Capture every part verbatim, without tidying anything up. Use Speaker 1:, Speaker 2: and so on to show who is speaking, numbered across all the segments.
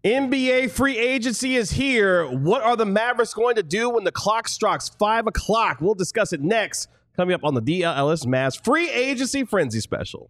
Speaker 1: N B A free agency is here. What are the Mavericks going to do when the clock strikes five o'clock? We'll discuss it next, coming up on the D L L S Mavs Free Agency Frenzy Special.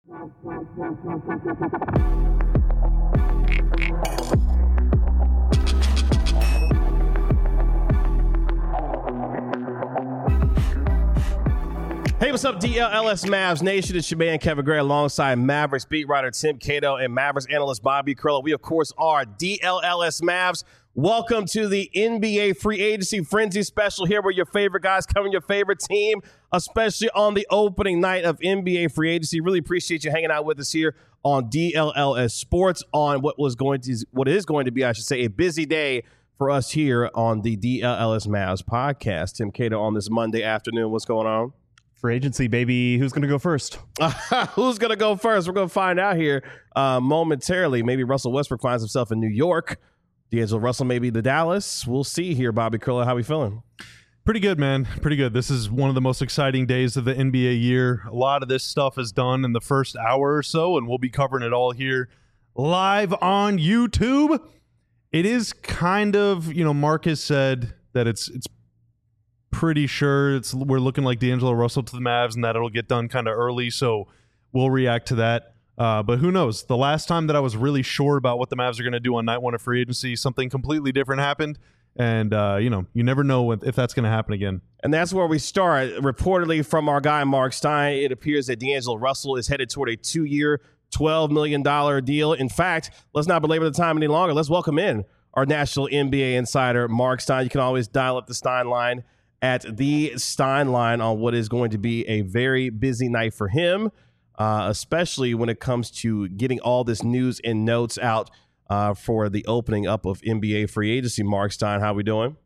Speaker 1: Hey, what's up, D L L S Mavs Nation? It's your man, Kevin Gray, alongside Mavericks beat writer Tim Cato and Mavericks analyst Bobby Curlo. We, of course, are D L L S Mavs. Welcome to the N B A Free Agency Frenzy Special here, where your favorite guys covering your favorite team, especially on the opening night of N B A Free Agency. Really appreciate you hanging out with us here on D L L S Sports on what was going to, what is going to be, I should say, a busy day for us here on the D L L S Mavs podcast. Tim Cato on this Monday afternoon. What's going on?
Speaker 2: Free agency, baby. Who's going to go first?
Speaker 1: Who's going to go first? We're going to find out here uh, momentarily. Maybe Russell Westbrook finds himself in New York. D'Angelo Russell maybe to Dallas. We'll see here, Bobby Curlo. How we feeling?
Speaker 2: Pretty good, man. Pretty good. This is one of the most exciting days of the N B A year. A lot of this stuff is done in the first hour or so, and we'll be covering it all here live on YouTube. It is kind of, you know, Marcus said that it's it's pretty sure it's we're looking like D'Angelo Russell to the Mavs and that it'll get done kind of early, so we'll react to that. Uh, but who knows? The last time that I was really sure about what the Mavs are going to do on night one of free agency, something completely different happened. And, uh, you know, you never know if that's going to happen again.
Speaker 1: And that's where we start. Reportedly from our guy, Mark Stein, it appears that D'Angelo Russell is headed toward a two-year, twelve million dollars deal. In fact, let's not belabor the time any longer. Let's welcome in our national N B A insider, Mark Stein. You can always dial up the Stein line at the Stein line on what is going to be a very busy night for him, uh, especially when it comes to getting all this news and notes out uh, for the opening up of N B A free agency. Mark Stein, how we doing?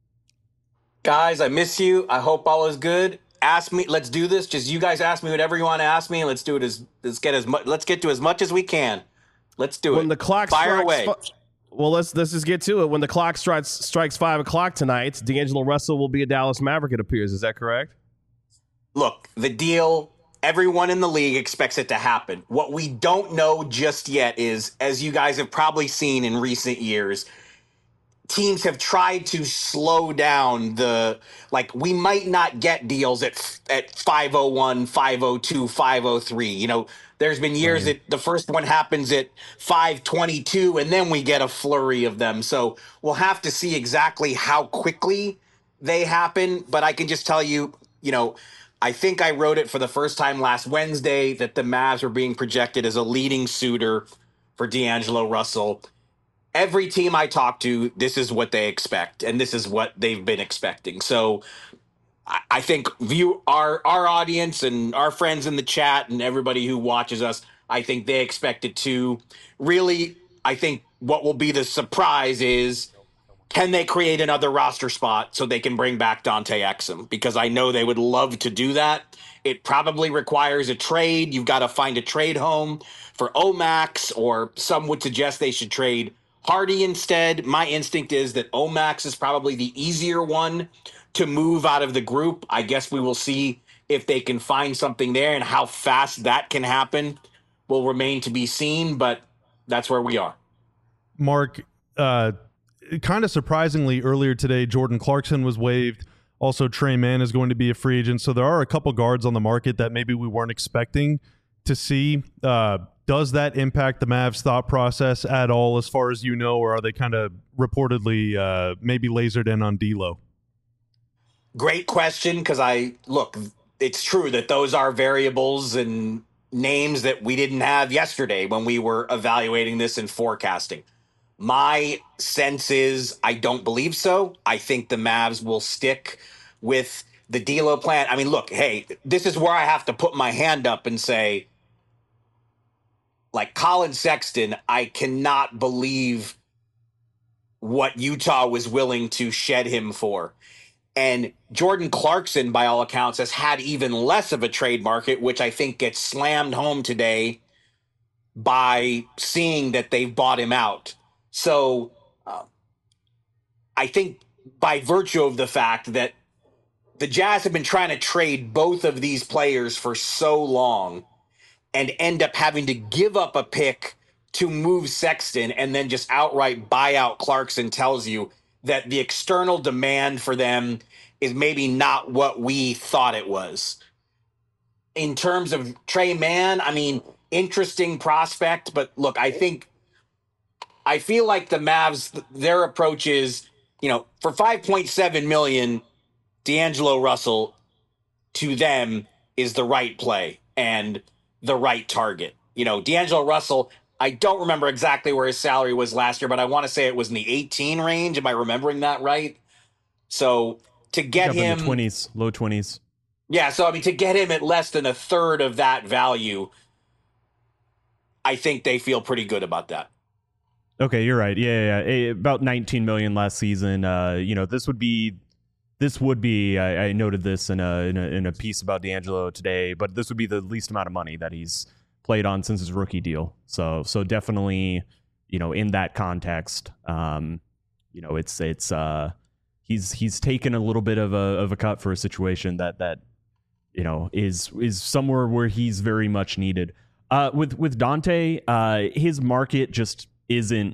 Speaker 3: Guys, I miss you. I hope all is good. Ask me. Let's do this. Just you guys ask me whatever you want to ask me, and let's do it as let's get as much. Let's get to as much as we can. Let's do it.
Speaker 1: When the clock
Speaker 3: fire
Speaker 1: strikes,
Speaker 3: away.
Speaker 1: Fu- Well, let's let's just get to it. When the clock strikes strikes five o'clock tonight, D'Angelo Russell will be a Dallas Maverick, it appears. Is that correct?
Speaker 3: Look, the deal, everyone in the league expects it to happen. What we don't know just yet is, as you guys have probably seen in recent years, teams have tried to slow down the, like, we might not get deals at at five oh one, five oh two, five oh three. You know, there's been years that the first one happens at five twenty-two, and then we get a flurry of them. So we'll have to see exactly how quickly they happen. But I can just tell you, you know, I think I wrote it for the first time last Wednesday that the Mavs were being projected as a leading suitor for D'Angelo Russell. Every team I talk to, this is what they expect, and this is what they've been expecting. So I think view our our audience and our friends in the chat and everybody who watches us, I think they expect it too. Really, I think what will be the surprise is, can they create another roster spot so they can bring back Dante Exum? Because I know they would love to do that. It probably requires a trade. You've got to find a trade home for Omax, or some would suggest they should trade Hardy instead. My instinct is that Omax is probably the easier one to move out of the group. I guess we will see if they can find something there, and how fast that can happen will remain to be seen, but that's where we are.
Speaker 2: Mark, uh, kind of surprisingly, earlier today, Jordan Clarkson was waived. Also, Trey Mann is going to be a free agent. So there are a couple guards on the market that maybe we weren't expecting to see. Uh, does that impact the Mavs' thought process at all, as far as you know, or are they kind of reportedly uh, maybe lasered in on D'Lo?
Speaker 3: Great question, because I look, it's true that those are variables and names that we didn't have yesterday when we were evaluating this and forecasting. My sense is I don't believe so. I think the Mavs will stick with the D'Lo plan. I mean, look, hey, this is where I have to put my hand up and say, like Colin Sexton, I cannot believe what Utah was willing to shed him for. And Jordan Clarkson, by all accounts, has had even less of a trade market, which I think gets slammed home today by seeing that they've bought him out. So uh, I think by virtue of the fact that the Jazz have been trying to trade both of these players for so long and end up having to give up a pick to move Sexton and then just outright buy out Clarkson tells you that the external demand for them is maybe not what we thought it was. In terms of Trey Mann, I mean, interesting prospect, but look, I think, I feel like the Mavs, their approach is, you know, for five point seven million, D'Angelo Russell to them is the right play and the right target. You know, D'Angelo Russell, I don't remember exactly where his salary was last year, but I want to say it was in the eighteen range. Am I remembering that right? So to get him
Speaker 4: in the twenties, low twenties.
Speaker 3: Yeah, so I mean, to get him at less than a third of that value, I think they feel pretty good about that. Okay,
Speaker 4: you're right. Yeah, yeah, yeah. About nineteen million last season. Uh, you know, this would be, this would be. I, I noted this in a, in a in a piece about D'Angelo today, but this would be the least amount of money that he's played on since his rookie deal. So, so definitely, you know, in that context, um, you know, it's it's uh, he's he's taken a little bit of a of a cut for a situation that that you know is is somewhere where he's very much needed. Uh, with with Dante, uh, his market just isn't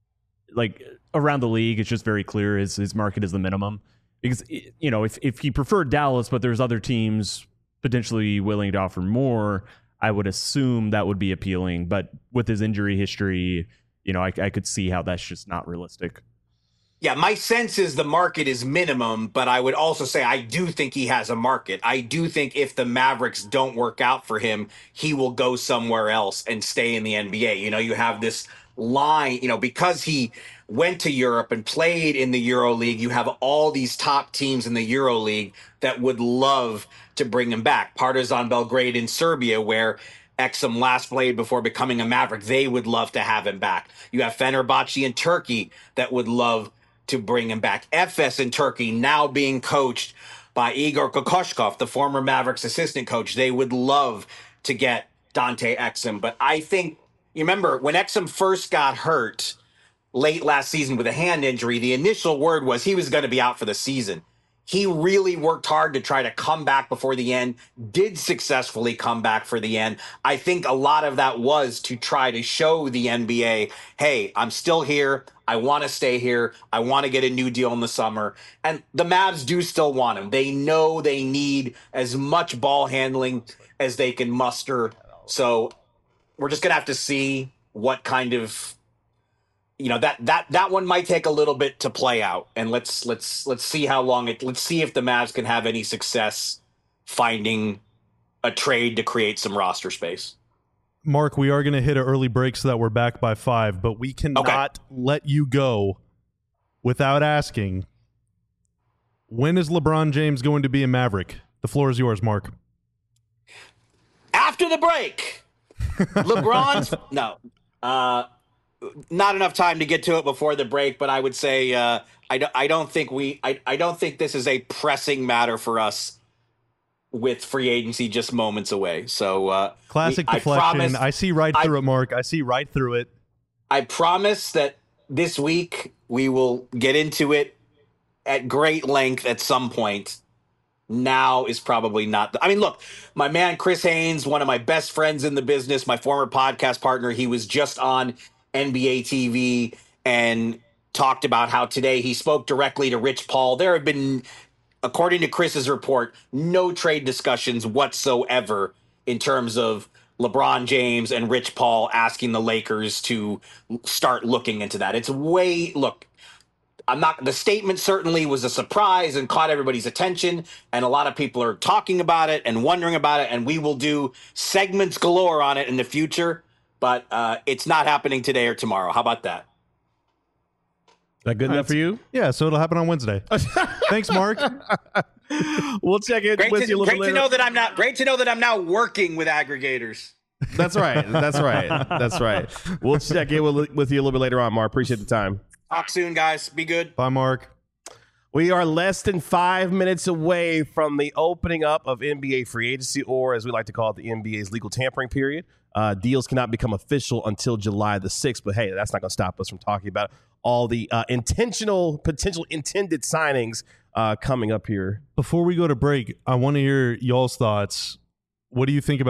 Speaker 4: like around the league. It's just very clear his his market is the minimum because you know if if he preferred Dallas, but there's other teams potentially willing to offer more, I would assume that would be appealing. But with his injury history, you know, I, I could see how that's just not realistic.
Speaker 3: Yeah, my sense is the market is minimum, but I would also say I do think he has a market. I do think if the Mavericks don't work out for him, he will go somewhere else and stay in the N B A. You know, you have this line, you know, because he went to Europe and played in the EuroLeague, you have all these top teams in the EuroLeague that would love to bring him back. Partizan Belgrade in Serbia, where Exum last played before becoming a Maverick, they would love to have him back. You have Fenerbahce in Turkey that would love to bring him back. Efes in Turkey, now being coached by Igor Kokoshkov, the former Mavericks assistant coach. They would love to get Dante Exum. But I think, you remember, when Exum first got hurt late last season with a hand injury, the initial word was he was going to be out for the season. He really worked hard to try to come back before the end, did successfully come back for the end. I think a lot of that was to try to show the N B A, hey, I'm still here. I want to stay here. I want to get a new deal in the summer. And the Mavs do still want him. They know they need as much ball handling as they can muster. So we're just going to have to see what kind of, you know, that that that one might take a little bit to play out, and let's let's let's see how long it. Let's see if the Mavs can have any success finding a trade to create some roster space.
Speaker 2: Mark, we are going to hit an early break so that we're back by five, but we cannot okay. let you go without asking, when is LeBron James going to be a Maverick? The floor is yours, Mark.
Speaker 3: After the break, LeBron's no. Uh, Not enough time to get to it before the break, but I would say uh, I, do, I don't think we I, I don't think this is a pressing matter for us with free agency just moments away. So uh,
Speaker 2: classic
Speaker 3: we,
Speaker 2: deflection. I,
Speaker 3: promise,
Speaker 2: I see right through I, it, Mark. I see right through it.
Speaker 3: I promise that this week we will get into it at great length at some point. Now is probably not. The, I mean, look, my man Chris Haynes, one of my best friends in the business, my former podcast partner, he was just on N B A T V and talked about how today he spoke directly to Rich Paul. There have been, according to Chris's report, no trade discussions whatsoever in terms of LeBron James and Rich Paul asking the Lakers to start looking into that. It's way, look, I'm not, the statement certainly was a surprise and caught everybody's attention, and a lot of people are talking about it and wondering about it, and we will do segments galore on it in the future. But uh, it's not happening today or tomorrow. How about that?
Speaker 1: That good enough for you?
Speaker 2: Yeah, so it'll happen on Wednesday. Thanks, Mark.
Speaker 1: We'll check in
Speaker 3: great
Speaker 1: with
Speaker 3: to,
Speaker 1: you a little
Speaker 3: great
Speaker 1: later.
Speaker 3: To know that I'm not, great to know that I'm now working with aggregators.
Speaker 1: That's right. That's right. That's right. We'll check in with, with you a little bit later on, Mark. Appreciate the time.
Speaker 3: Talk soon, guys. Be good.
Speaker 2: Bye, Mark.
Speaker 1: We are less than five minutes away from the opening up of N B A free agency, or as we like to call it, the N B A's legal tampering period. Uh, deals cannot become official until July the sixth, but hey, that's not going to stop us from talking about all the uh, intentional, potential intended signings uh, coming up here.
Speaker 2: Before we go to break, I want to hear y'all's thoughts. What do you think about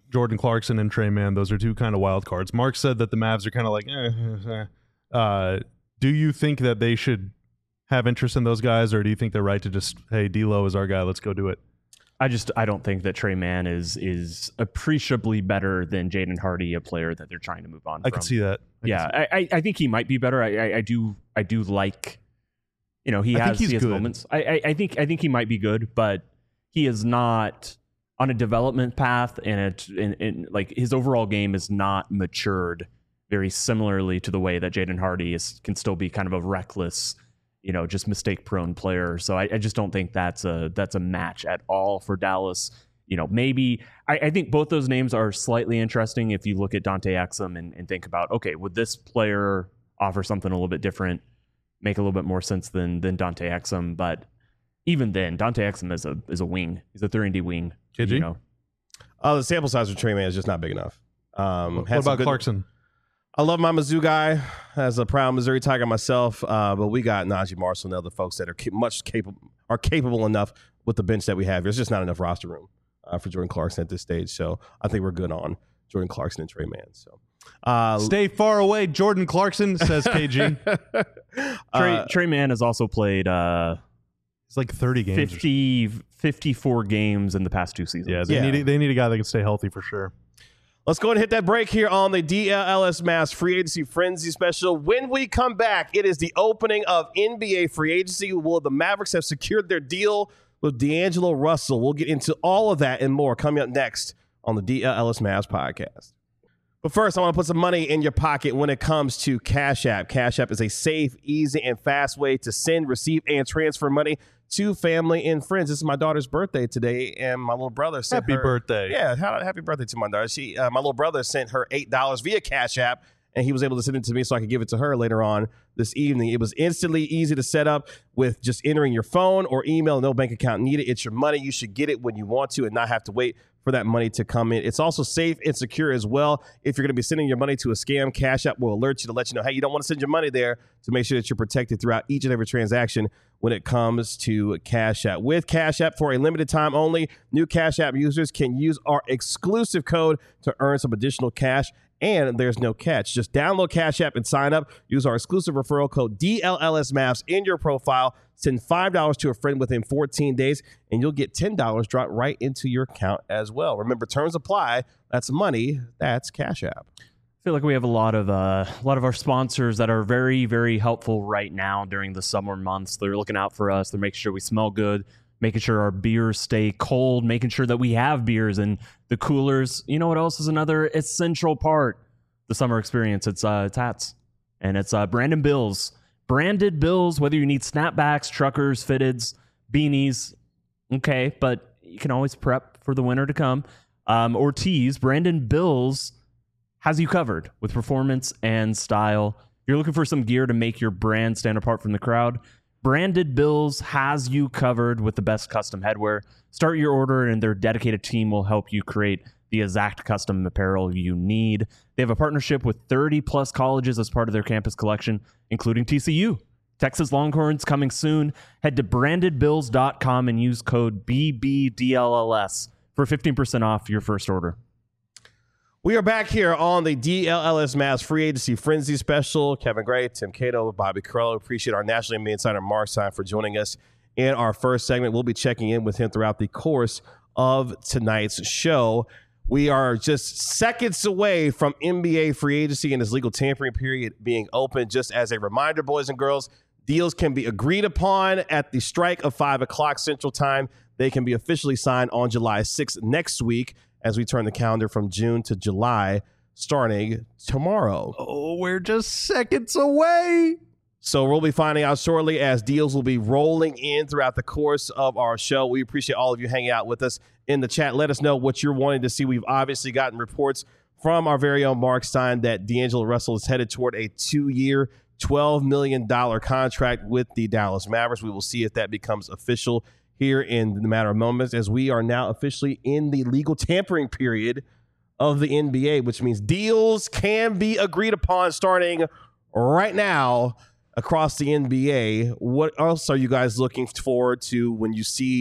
Speaker 2: Jordan Clarkson and Trey Mann. Those are two kind of wild cards. Mark said that the Mavs are kind of like, eh, eh, eh. Uh, do you think that they should have interest in those guys, or do you think they're right to just, hey, D'Lo is our guy, let's go do it?
Speaker 4: I just I don't think that Trey Mann is is appreciably better than Jaden Hardy, a player that they're trying to move on
Speaker 2: I
Speaker 4: from.
Speaker 2: can see that. I
Speaker 4: yeah,
Speaker 2: see
Speaker 4: I, I think he might be better. I, I, I do I do like, you know, he
Speaker 2: I
Speaker 4: has,
Speaker 2: think he's
Speaker 4: he has
Speaker 2: good.
Speaker 4: moments. I, I, I think I think he might be good, but he is not on a development path, and it and, and like his overall game is not matured very similarly to the way that Jaden Hardy is can still be kind of a reckless, you know, just mistake prone player. So I, I just don't think that's a that's a match at all for Dallas. You know, maybe I, I think both those names are slightly interesting if you look at Dante Exum and, and think about, okay, would this player offer something a little bit different, make a little bit more sense than than Dante Exum? But even then, Dante Exum is a is a wing. He's a three and D wing.
Speaker 2: K G?
Speaker 4: You know,
Speaker 1: Uh, the sample size for Trey Mann is just not big enough. Um,
Speaker 2: What
Speaker 1: had some
Speaker 2: about
Speaker 1: good-
Speaker 2: Clarkson?
Speaker 1: I love my Mizzou guy as a proud Missouri Tiger myself, uh, but we got Najee Marshall and other folks that are ca- much capable are capable enough with the bench that we have. There's just not enough roster room uh, for Jordan Clarkson at this stage, so I think we're good on Jordan Clarkson and Trey Mann. So uh,
Speaker 2: Stay far away, Jordan Clarkson, says K G.
Speaker 4: Trey
Speaker 1: uh,
Speaker 4: Trey Mann has also played uh,
Speaker 2: It's like thirty games. or
Speaker 4: fifty, fifty-four games in the past two seasons.
Speaker 2: Yeah, they
Speaker 1: Yeah.
Speaker 2: need they need a guy that can stay healthy for sure.
Speaker 1: Let's go and hit that break here on the D L L S Mavs Free Agency Frenzy Special. When we come back, it is the opening of N B A free agency. Will the Mavericks have secured their deal with D'Angelo Russell? We'll get into all of that and more coming up next on the D L L S Mavs podcast. But first, I want to put some money in your pocket when it comes to Cash App. Cash App is a safe, easy, and fast way to send, receive, and transfer money to family and friends. This is my daughter's birthday today, and my little brother sent
Speaker 2: Happy
Speaker 1: her,
Speaker 2: birthday.
Speaker 1: Yeah, ha- happy birthday to my daughter. She, uh, my little brother sent her eight dollars via Cash App, and he was able to send it to me so I could give it to her later on this evening. It was instantly easy to set up with just entering your phone or email. No bank account needed. It's your money. You should get it when you want to and not have to wait for that money to come in. It's also safe and secure as well. If you're going to be sending your money to a scam, Cash App will alert you to let you know, hey, you don't want to send your money there, to make sure that you're protected throughout each and every transaction when it comes to Cash App. With Cash App, for a limited time only, new Cash App users can use our exclusive code to earn some additional cash. And there's no catch. Just download Cash App and sign up. Use our exclusive referral code D L L S Mavs in your profile. Send five dollars to a friend within fourteen days, and you'll get ten dollars dropped right into your account as well. Remember, terms apply. That's money. That's Cash App.
Speaker 4: I feel like we have a lot of uh, a lot of our sponsors that are very, very helpful right now during the summer months. They're looking out for us. They're making sure we smell good, making sure our beers stay cold, making sure that we have beers in the coolers. You know what else is another essential part? The summer experience. It's uh, it's hats, and it's uh, Brandon Bills. Branded Bills, whether you need snapbacks, truckers, fitteds, beanies, okay, but you can always prep for the winter to come. Um, or tees, Brandon Bills has you covered with performance and style. You're looking for some gear to make your brand stand apart from the crowd. Branded Bills has you covered with the best custom headwear. Start your order, and their dedicated team will help you create the exact custom apparel you need. They have a partnership with thirty plus colleges as part of their campus collection, including T C U. Texas Longhorns coming soon. Head to branded bills dot com and use code B B D L L S for fifteen percent off your first order.
Speaker 1: We are back here on the D L L S Mavs Free Agency Frenzy Special. Kevin Gray, Tim Cato, Bobby Carrello. Appreciate our National N B A insider Mark Stein for joining us in our first segment. We'll be checking in with him throughout the course of tonight's show. We are just seconds away from N B A free agency and its legal tampering period being open. Just as a reminder, boys and girls, deals can be agreed upon at the strike of five o'clock Central Time. They can be officially signed on July sixth next week as we turn the calendar from June to July starting tomorrow.
Speaker 2: Oh, we're just seconds away.
Speaker 1: So we'll be finding out shortly as deals will be rolling in throughout the course of our show. We appreciate all of you hanging out with us in the chat. Let us know what you're wanting to see. We've obviously gotten reports from our very own Mark Stein that D'Angelo Russell is headed toward a two-year, twelve million dollars contract with the Dallas Mavericks. We will see if that becomes official here in the matter of moments, as we are now officially in the legal tampering period of the N B A, which means deals can be agreed upon starting right now across the N B A. What else are you guys looking forward to when you see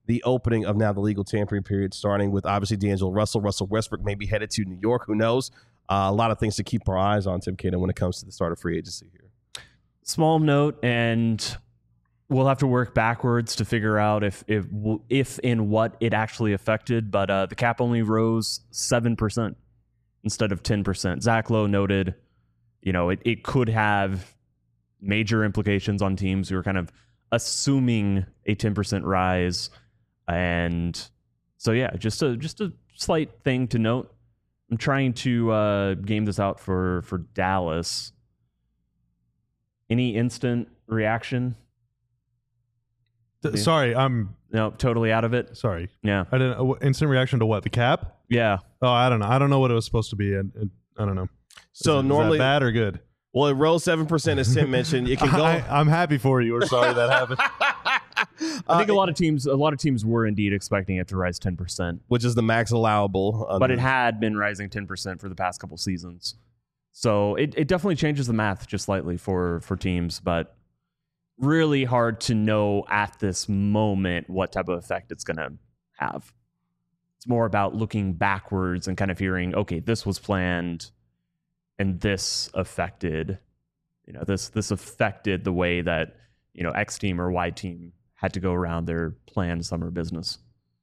Speaker 1: the opening of now the legal tampering period, starting with obviously D'Angelo Russell. Russell Westbrook may be headed to New York. Who knows? Uh, a lot of things to keep our eyes on, Tim Cato, when it comes to the start of free agency here.
Speaker 4: Small note, and we'll have to work backwards to figure out if if if and what it actually affected. But uh, the cap only rose seven percent instead of ten percent. Zach Lowe noted, you know, it, it could have major implications on teams who are kind of assuming a ten percent rise. And so, yeah, just a just a slight thing to note. I'm trying to uh, game this out for, for Dallas. Any instant reaction?
Speaker 2: Th- sorry, I'm
Speaker 4: No, totally out of it.
Speaker 2: sorry.
Speaker 4: Yeah.
Speaker 2: I didn't. Uh, instant reaction to what? The cap?
Speaker 4: Yeah.
Speaker 2: Oh, I don't know. I don't know what it was supposed to be. I, I don't know.
Speaker 1: So
Speaker 2: is,
Speaker 1: normally,
Speaker 2: is that bad or good?
Speaker 1: well, it rose seven percent, as Tim mentioned. It can go.
Speaker 2: I, I'm happy for you. We're sorry that happened.
Speaker 4: I think a lot of teams a lot of teams were indeed expecting it to rise ten percent.
Speaker 1: Which is the max allowable. Under,
Speaker 4: But it had been rising ten percent for the past couple seasons. So it, it definitely changes the math just slightly for, for teams, but really hard to know at this moment what type of effect it's going to have. It's more about looking backwards and kind of hearing, okay, this was planned and this affected, you know, this this affected the way that, you know, X team or Y team had to go around their planned summer business.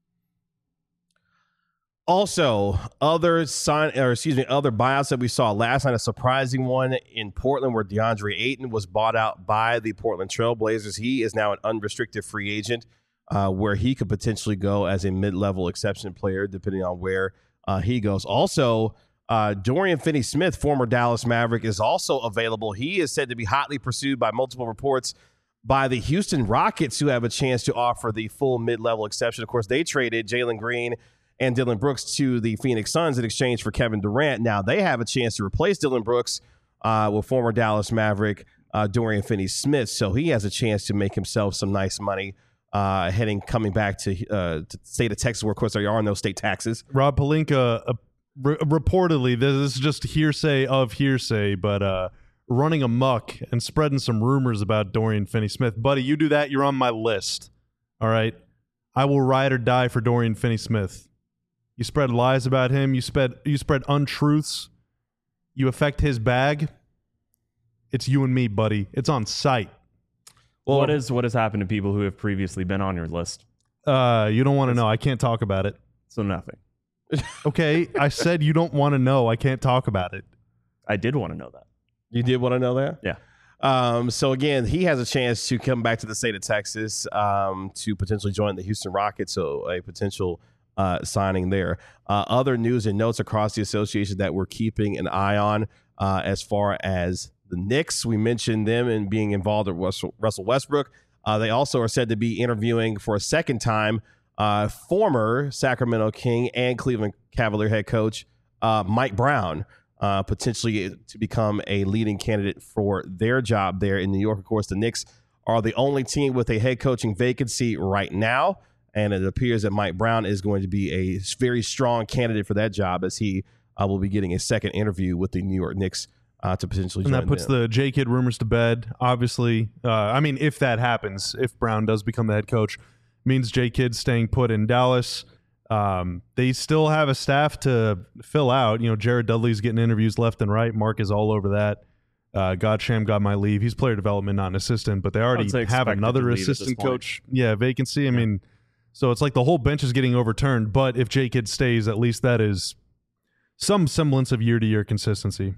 Speaker 1: Also, other sign or excuse me, other buyouts that we saw last night. A surprising one in Portland, where DeAndre Ayton was bought out by the Portland Trailblazers. He is now an unrestricted free agent, uh, where he could potentially go as a mid-level exception player, depending on where uh, he goes. Also, uh, Dorian Finney-Smith, former Dallas Maverick, is also available. He is said to be hotly pursued by multiple reports by the Houston Rockets, who have a chance to offer the full mid-level exception. Of course, they traded Jalen Green and Dillon Brooks to the Phoenix Suns in exchange for Kevin Durant. Now they have a chance to replace Dillon Brooks uh, with former Dallas Maverick uh, Dorian Finney-Smith. So he has a chance to make himself some nice money uh, heading coming back to, uh, to the state of Texas, where, of course, there are no state taxes.
Speaker 2: Rob Pelinka, uh, re- reportedly, this is just hearsay of hearsay, but uh, running amok and spreading some rumors about Dorian Finney-Smith. Buddy, you do that, you're on my list. All right? I will ride or die for Dorian Finney-Smith. You spread lies about him. You spread you spread untruths. You affect his bag. It's you and me, buddy. It's on site.
Speaker 4: Well, what is what has happened to people who have previously been on your list?
Speaker 2: Uh, you don't want to know. I can't talk about it.
Speaker 4: So nothing.
Speaker 2: Okay, I said you don't want to know. I can't talk about it.
Speaker 4: I did want to know that.
Speaker 1: You did want to know that?
Speaker 4: Yeah.
Speaker 1: Um, so, again, he has a chance to come back to the state of Texas um, to potentially join the Houston Rockets, so a potential Uh, signing there. Uh, other news and notes across the association that we're keeping an eye on uh, as far as the Knicks. We mentioned them and being involved with Russell, Russell Westbrook. Uh, they also are said to be interviewing for a second time uh, former Sacramento King and Cleveland Cavalier head coach uh, Mike Brown, uh, potentially to become a leading candidate for their job there in New York. Of course, the Knicks are the only team with a head coaching vacancy right now. And it appears that Mike Brown is going to be a very strong candidate for that job, as he uh, will be getting a second interview with the New York Knicks uh, to potentially
Speaker 2: and
Speaker 1: join
Speaker 2: that puts
Speaker 1: them.
Speaker 2: the J-Kid rumors to bed, obviously. Uh, I mean, if that happens, if Brown does become the head coach, means J-Kid staying put in Dallas. Um, they still have a staff to fill out. You know, Jared Dudley's getting interviews left and right. Mark is all over that. Uh, Godsham got my leave. He's player development, not an assistant, but they already have another assistant coach. Yeah, vacancy. I yeah. mean... So it's like the whole bench is getting overturned, but if J-Kid stays, at least that is some semblance of year-to-year consistency.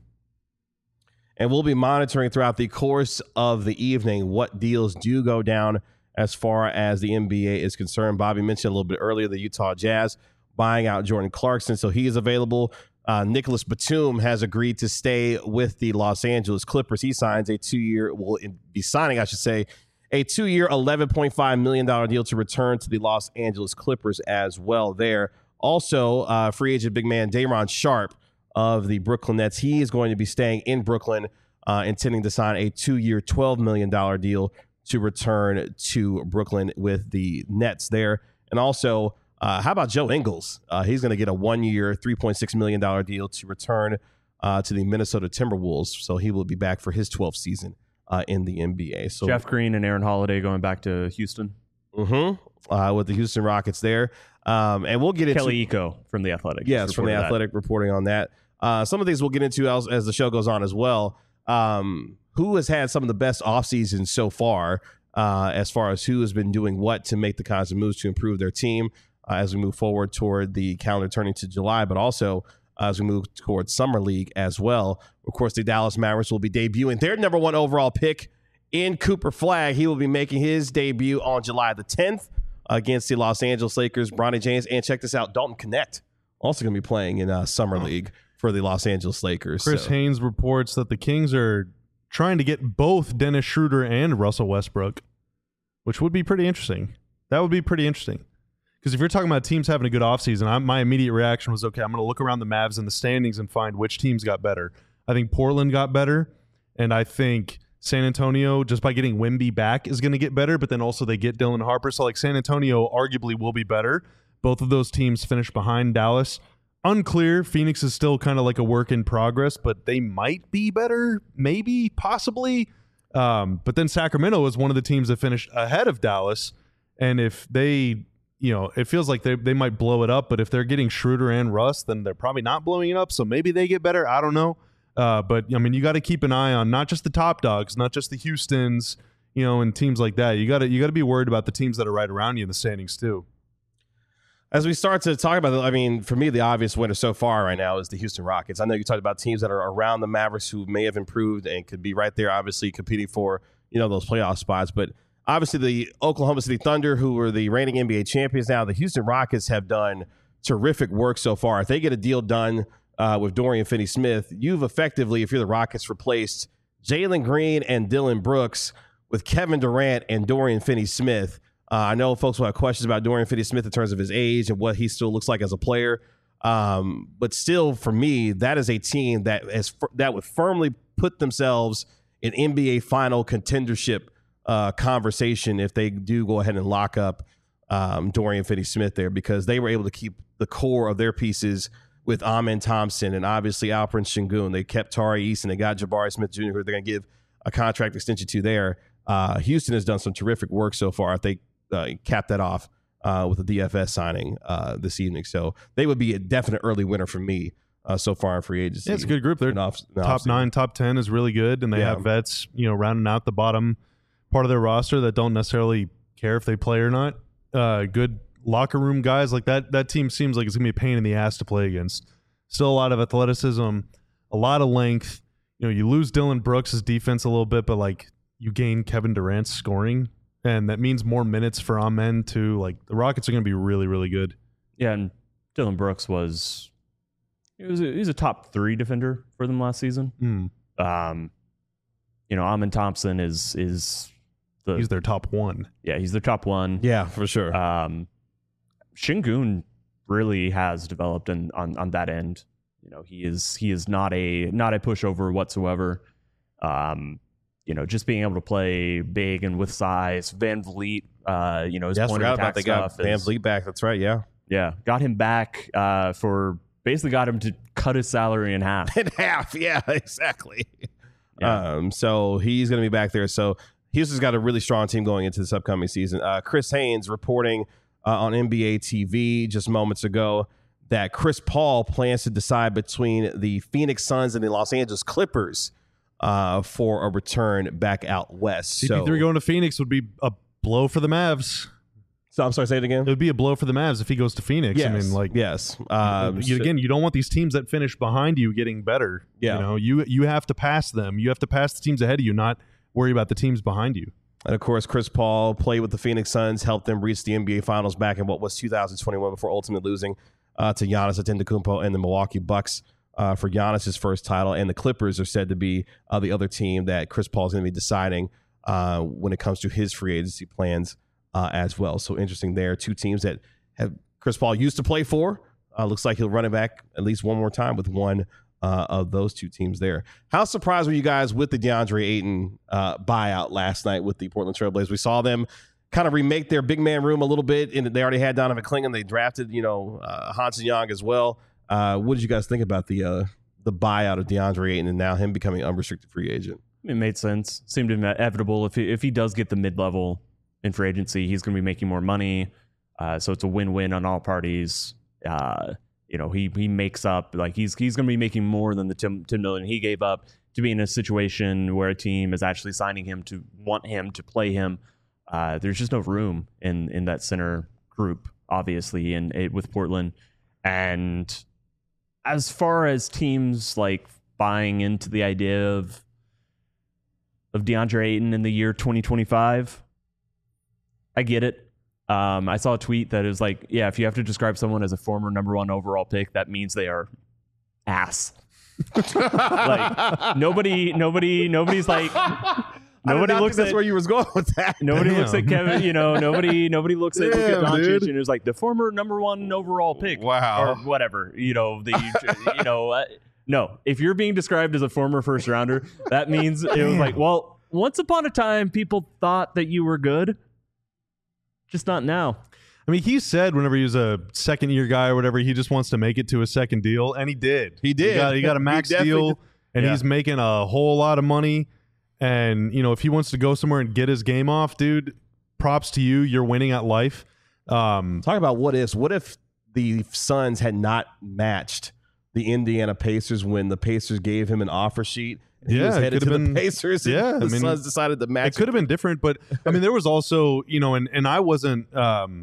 Speaker 1: And we'll be monitoring throughout the course of the evening what deals do go down as far as the N B A is concerned. Bobby mentioned a little bit earlier the Utah Jazz buying out Jordan Clarkson, so he is available. Uh, Nicholas Batum has agreed to stay with the Los Angeles Clippers. He signs a two-year, will be signing, I should say, a two-year, eleven point five million dollars deal to return to the Los Angeles Clippers as well there. Also, uh, free agent big man Day'Ron Sharpe of the Brooklyn Nets. He is going to be staying in Brooklyn, uh, intending to sign a two-year, twelve million dollars deal to return to Brooklyn with the Nets there. And also, uh, how about Joe Ingles? Uh, he's going to get a one-year, three point six million dollars deal to return uh, to the Minnesota Timberwolves. So he will be back for his twelfth season Uh, in the N B A. So
Speaker 4: Jeff Green and Aaron Holiday going back to Houston.
Speaker 1: Mm-hmm. uh, with the Houston Rockets there. Um, and we'll get into
Speaker 4: Kelly Iko from The Athletic.
Speaker 1: Yes, from The Athletic reporting on that. Uh, some of these we'll get into as, as the show goes on as well. Um, who has had some of the best off seasons so far, uh, as far as who has been doing what to make the kinds of moves to improve their team uh, as we move forward toward the calendar turning to July, but also uh, as we move towards Summer League as well. Of course, the Dallas Mavericks will be debuting their number one overall pick in Cooper Flagg. He will be making his debut on July the tenth against the Los Angeles Lakers. Bronny James, and check this out, Dalton Knecht also going to be playing in uh, Summer League for the Los Angeles Lakers.
Speaker 2: Chris
Speaker 1: so.
Speaker 2: Haynes reports that the Kings are trying to get both Dennis Schroeder and Russell Westbrook, which would be pretty interesting. That would be pretty interesting. Because if you're talking about teams having a good offseason, I, my immediate reaction was, okay, I'm going to look around the Mavs and the standings and find which teams got better. I think Portland got better, and I think San Antonio, just by getting Wemby back, is going to get better, but then also they get Dylan Harper. So, like, San Antonio arguably will be better. Both of those teams finished behind Dallas. Unclear. Phoenix is still kind of like a work in progress, but they might be better, maybe, possibly. Um, but then Sacramento is one of the teams that finished ahead of Dallas, and if they, you know, it feels like they they might blow it up, but if they're getting Schroeder and Russ, then they're probably not blowing it up, so maybe they get better. I don't know. Uh, but, I mean, you got to keep an eye on not just the top dogs, not just the Houstons, you know, and teams like that. You got to you got to be worried about the teams that are right around you in the standings too.
Speaker 1: As we start to talk about it, I mean, for me, the obvious winner so far right now is the Houston Rockets. I know you talked about teams that are around the Mavericks who may have improved and could be right there, obviously competing for, you know, those playoff spots. But obviously the Oklahoma City Thunder, who were the reigning N B A champions now, the Houston Rockets have done terrific work so far. If they get a deal done uh, with Dorian Finney-Smith, you've effectively, if you're the Rockets, replaced Jalen Green and Dylan Brooks with Kevin Durant and Dorian Finney-Smith. Uh, I know folks will have questions about Dorian Finney-Smith in terms of his age and what he still looks like as a player. Um, but still, for me, that is a team that has that would firmly put themselves in N B A final contendership uh, conversation if they do go ahead and lock up um, Dorian Finney-Smith there, because they were able to keep the core of their pieces with Amen Thompson and obviously Alperen Sengun. They kept Tari Eason. They got Jabari Smith-Junior, who they're going to give a contract extension to there. Uh, Houston has done some terrific work so far. If they Uh, cap that off uh, with a D F S signing uh, this evening. So they would be a definite early winner for me uh, so far in free agency.
Speaker 2: Yeah, it's a good group. They're
Speaker 1: off,
Speaker 2: top nine, top ten is really good, and they
Speaker 1: yeah.
Speaker 2: have vets, you know, rounding out the bottom part of their roster that don't necessarily care if they play or not. Uh, good locker room guys like that. That team seems like it's gonna be a pain in the ass to play against. Still a lot of athleticism, a lot of length. You know, you lose Dylan Brooks' defense a little bit, but like you gain Kevin Durant's scoring. And that means more minutes for Amen too. Like the Rockets are going to be really, really good.
Speaker 4: Yeah, and Dylan Brooks was he was a, he was a top three defender for them last season.
Speaker 2: Mm.
Speaker 4: Um, you know, Amen Thompson is is the
Speaker 2: he's their top one.
Speaker 4: Yeah, he's their top one.
Speaker 1: Yeah, for sure.
Speaker 4: Um, Sengun really has developed in, on on that end. You know, he is he is not a not a pushover whatsoever. Um. You know, just being able to play big and with size. Van Vliet, uh, you know, his
Speaker 1: yeah,
Speaker 4: point of attack
Speaker 1: they got
Speaker 4: stuff.
Speaker 1: Van
Speaker 4: is,
Speaker 1: Vliet back. That's right. Yeah,
Speaker 4: yeah, got him back uh, for basically got him to cut his salary in half.
Speaker 1: in half. Yeah, exactly.
Speaker 4: Yeah.
Speaker 1: Um, so he's going to be back there. So Houston's got a really strong team going into this upcoming season. Uh, Chris Haynes reporting uh, on N B A T V just moments ago that Chris Paul plans to decide between the Phoenix Suns and the Los Angeles Clippers Uh, for a return back out west.
Speaker 2: C P three so, going to Phoenix would be a blow for the Mavs.
Speaker 1: So I'm sorry, say it again.
Speaker 2: It would be a blow for the Mavs if he goes to Phoenix.
Speaker 1: Yes.
Speaker 2: I mean, like,
Speaker 1: yes. Um,
Speaker 2: you, again, you don't want these teams that finish behind you getting better.
Speaker 1: Yeah.
Speaker 2: You know, you you have to pass them. You have to pass the teams ahead of you, not worry about the teams behind you.
Speaker 1: And of course, Chris Paul played with the Phoenix Suns, helped them reach the N B A Finals back in what was two thousand twenty-one before ultimately losing uh, to Giannis Antetokounmpo and the Milwaukee Bucks. Uh, for Giannis's first title, and the Clippers are said to be uh, the other team that Chris Paul is going to be deciding uh, when it comes to his free agency plans uh, as well. So interesting there. Two teams that have Chris Paul used to play for. Uh, looks like he'll run it back at least one more time with one uh, of those two teams there. How surprised were you guys with the DeAndre Ayton uh, buyout last night with the Portland Trail Blazers? We saw them kind of remake their big man room a little bit, and they already had Donovan Clingan. They drafted, you know, uh, Hanson Young as well. Uh, what did you guys think about the uh, the buyout of DeAndre Ayton and now him becoming unrestricted free agent?
Speaker 4: It made sense. Seemed inevitable if he, if he does get the mid level in free agency. He's going to be making more money. Uh, so it's a win-win on all parties. Uh, you know, he he makes up, like he's he's going to be making more than the ten million he gave up to be in a situation where a team is actually signing him to want him to play him. Uh, there's just no room in in that center group, obviously, and it, with Portland. And as far as teams like buying into the idea of of DeAndre Ayton in the year twenty twenty-five, I get it. Um, I saw a tweet that is like, yeah, if you have to describe someone as a former number one overall pick, that means they are ass. Like nobody, nobody, nobody's like, nobody looks
Speaker 1: that's
Speaker 4: at
Speaker 1: where you was going with that.
Speaker 4: nobody
Speaker 2: Damn.
Speaker 4: looks at Kevin. You know, nobody, nobody looks at,
Speaker 2: Damn,
Speaker 4: Luka Doncic
Speaker 2: dude.
Speaker 4: and is like the former number one overall pick.
Speaker 2: Wow.
Speaker 4: Or whatever. You know, the you know, uh, no. If you're being described as a former first rounder, that means it was like, well, once upon a time, people thought that you were good. Just not now.
Speaker 2: I mean, he said whenever he was a second year guy or whatever, he just wants to make it to a second deal, and he did.
Speaker 1: He did.
Speaker 2: He got, he got a
Speaker 1: He
Speaker 2: max
Speaker 1: definitely
Speaker 2: deal,
Speaker 1: did.
Speaker 2: and
Speaker 1: Yeah.
Speaker 2: he's making a whole lot of money. And you know, if he wants to go somewhere and get his game off, dude, props to you. You're winning at life. Um,
Speaker 1: Talk about what ifs. What if the Suns had not matched the Indiana Pacers when the Pacers gave him an offer sheet? And he
Speaker 2: Yeah,
Speaker 1: was
Speaker 2: it
Speaker 1: headed to
Speaker 2: could've
Speaker 1: the
Speaker 2: been-
Speaker 1: Pacers. And
Speaker 2: yeah, I
Speaker 1: the
Speaker 2: mean,
Speaker 1: Suns decided to match.
Speaker 2: it could have been different, but I mean, there was also, you know, and and I wasn't um,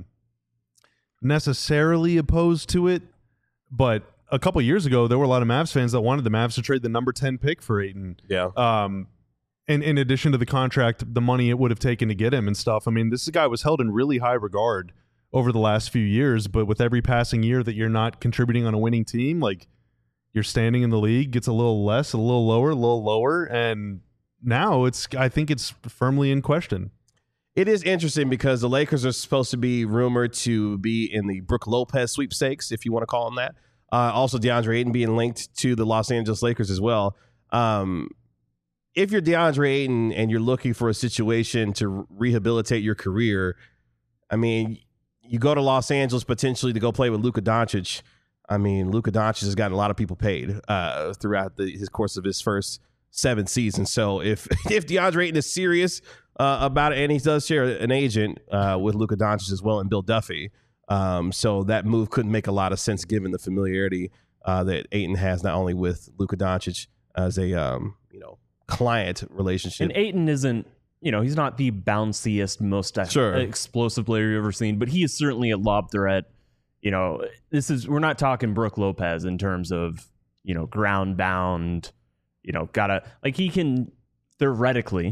Speaker 2: necessarily opposed to it, but a couple years ago, there were a lot of Mavs fans that wanted the Mavs to trade the number ten pick for Ayton.
Speaker 1: Yeah.
Speaker 2: Um, and in addition to the contract, the money it would have taken to get him and stuff. I mean, this guy was held in really high regard over the last few years, but with every passing year that you're not contributing on a winning team, like your standing in the league gets a little less, a little lower, a little lower, and now it's I think it's firmly in question.
Speaker 1: It is interesting because the Lakers are supposed to be rumored to be in the Brook Lopez sweepstakes, if you want to call them that. Uh, also, DeAndre Ayton being linked to the Los Angeles Lakers as well. Um, if you're DeAndre Ayton and you're looking for a situation to rehabilitate your career, I mean, you go to Los Angeles potentially to go play with Luka Doncic. I mean, Luka Doncic has gotten a lot of people paid uh, throughout the, his course of his first seven seasons. So if if DeAndre Ayton is serious uh, about it, and he does share an agent uh, with Luka Doncic as well and Bill Duffy, um, so that move couldn't make a lot of sense given the familiarity uh, that Ayton has not only with Luka Doncic as a um, you know client relationship.
Speaker 4: And Ayton isn't, you know, he's not the bounciest, most
Speaker 1: Sure.
Speaker 4: explosive player you've ever seen, but he is certainly a lob threat. You know, this is, we're not talking Brook Lopez in terms of, you know, ground bound, you know, gotta, like he can theoretically,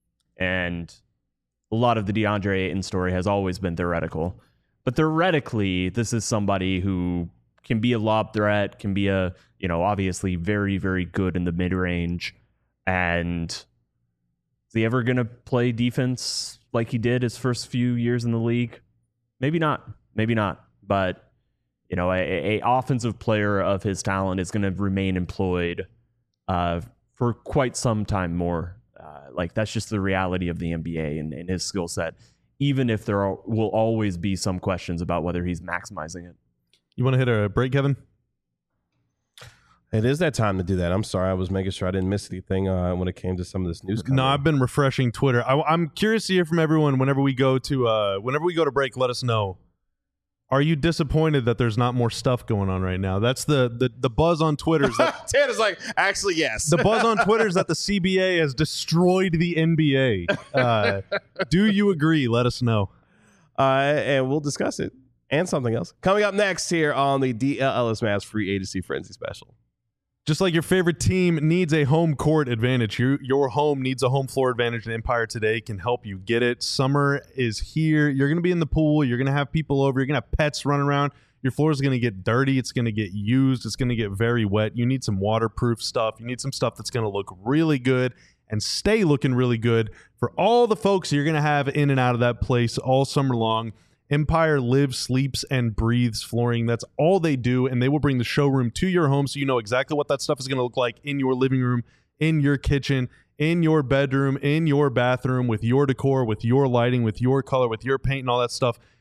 Speaker 4: and a lot of the DeAndre Ayton story has always been theoretical, but theoretically, this is somebody who can be a lob threat, can be a, you know, obviously very, very good in the mid range. And is he ever going to play defense like he did his first few years in the league? Maybe not. Maybe not. But, you know, a, a offensive player of his talent is going to remain employed uh, for quite some time more. Uh, like, that's just the reality of the N B A and, and his skill set, even if there are, will always be some questions about whether he's maximizing it.
Speaker 2: You want to hit a break, Kevin?
Speaker 1: It is that time to do that. I'm sorry. I was making sure I didn't miss anything uh, when it came to some of this news.
Speaker 2: No, I've been refreshing Twitter. I, I'm curious to hear from everyone whenever we go to uh, whenever we go to break. Let us know. Are you disappointed that there's not more stuff going on right now? That's the the, the buzz on Twitter. Is that,
Speaker 1: Ted is like, actually, yes.
Speaker 2: the buzz on Twitter is that the C B A has destroyed the N B A. Uh, do you agree? Let us know.
Speaker 1: Uh, and we'll discuss it and something else. Coming up next here on the D L L S Mavs Free Agency Frenzy Special.
Speaker 2: Just like your favorite team needs a home court advantage, your, your home needs a home floor advantage, and Empire Today can help you get it. Summer is here. You're going to be in the pool. You're going to have people over. You're going to have pets running around. Your floor is going to get dirty. It's going to get used. It's going to get very wet. You need some waterproof stuff. You need some stuff that's going to look really good and stay looking really good for all the folks you're going to have in and out of that place all summer long. Empire lives, sleeps, and breathes flooring. That's all they do, and they will bring the showroom to your home so you know exactly what that stuff is going to look like in your living room, in your kitchen, in your bedroom, in your bathroom, with your decor, with your lighting, with your color, with your paint, and all that stuff.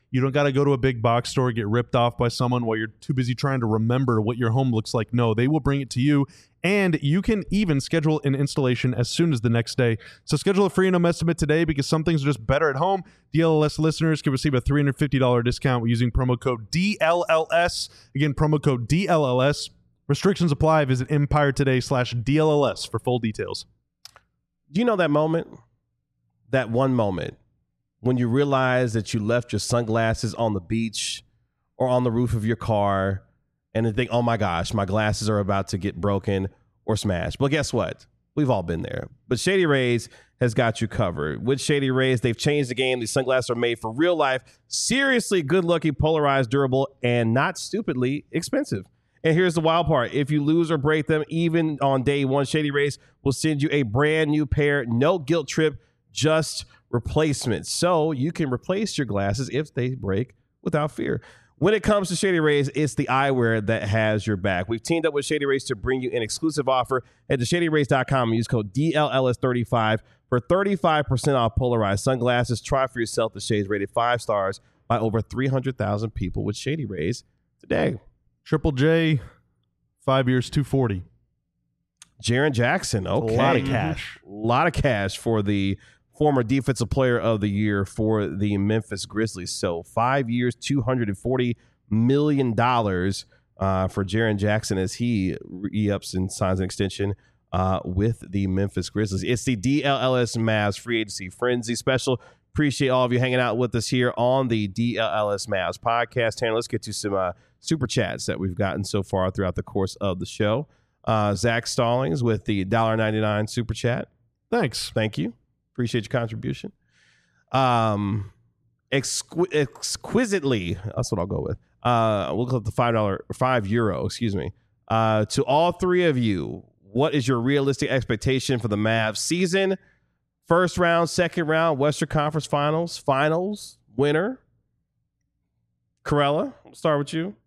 Speaker 2: You don't got to go to a big box store, get ripped off by someone while you're too busy trying to remember what your home looks like. No, they will bring it to you, and you can even schedule an installation as soon as the next day. So schedule a free and home estimate today because some things are just better at home. D L L S listeners can receive a three hundred fifty dollars discount using promo code D L L S. Again, promo code D L L S. Restrictions apply. Visit Empire Today slash D L L S for full details.
Speaker 1: Do you know that moment? That one moment when you realize that you left your sunglasses on the beach or on the roof of your car and then think, oh my gosh, my glasses are about to get broken or smashed. But guess what? We've all been there. But Shady Rays has got you covered. With Shady Rays, they've changed the game. These sunglasses are made for real life, seriously good-looking, polarized, durable, and not stupidly expensive. And here's the wild part. If you lose or break them, even on day one, Shady Rays will send you a brand new pair. No guilt trip, just replacements. So you can replace your glasses if they break without fear. When it comes to Shady Rays, it's the eyewear that has your back. We've teamed up with Shady Rays to bring you an exclusive offer. Head to shady rays dot com and use code D L L S thirty-five for thirty-five percent off polarized sunglasses. Try for yourself the shades rated five stars by over three hundred thousand people with Shady Rays today.
Speaker 2: Triple J, five years, two forty.
Speaker 1: Jaren Jackson, okay.
Speaker 2: A lot of cash.
Speaker 1: A lot of cash for the former Defensive Player of the Year for the Memphis Grizzlies. So five years, two hundred forty million dollars uh, for Jaren Jackson as he re-ups and signs an extension uh, with the Memphis Grizzlies. It's the D L L S Mavs Free Agency Frenzy Special. Appreciate all of you hanging out with us here on the D L L S Mavs podcast. Tanner, let's get to some uh, super chats that we've gotten so far throughout the course of the show. Uh, Zach Stallings with the one dollar and ninety-nine cents super chat.
Speaker 2: Thanks.
Speaker 1: Thank you. Appreciate your contribution. Um, exqu- exquisitely, that's what I'll go with. Uh, we'll go with the five dollar, five euro, excuse me. Uh, to all three of you, what is your realistic expectation for the Mavs season? First round, second round, Western Conference Finals, Finals, winner. Corella, we'll start with you.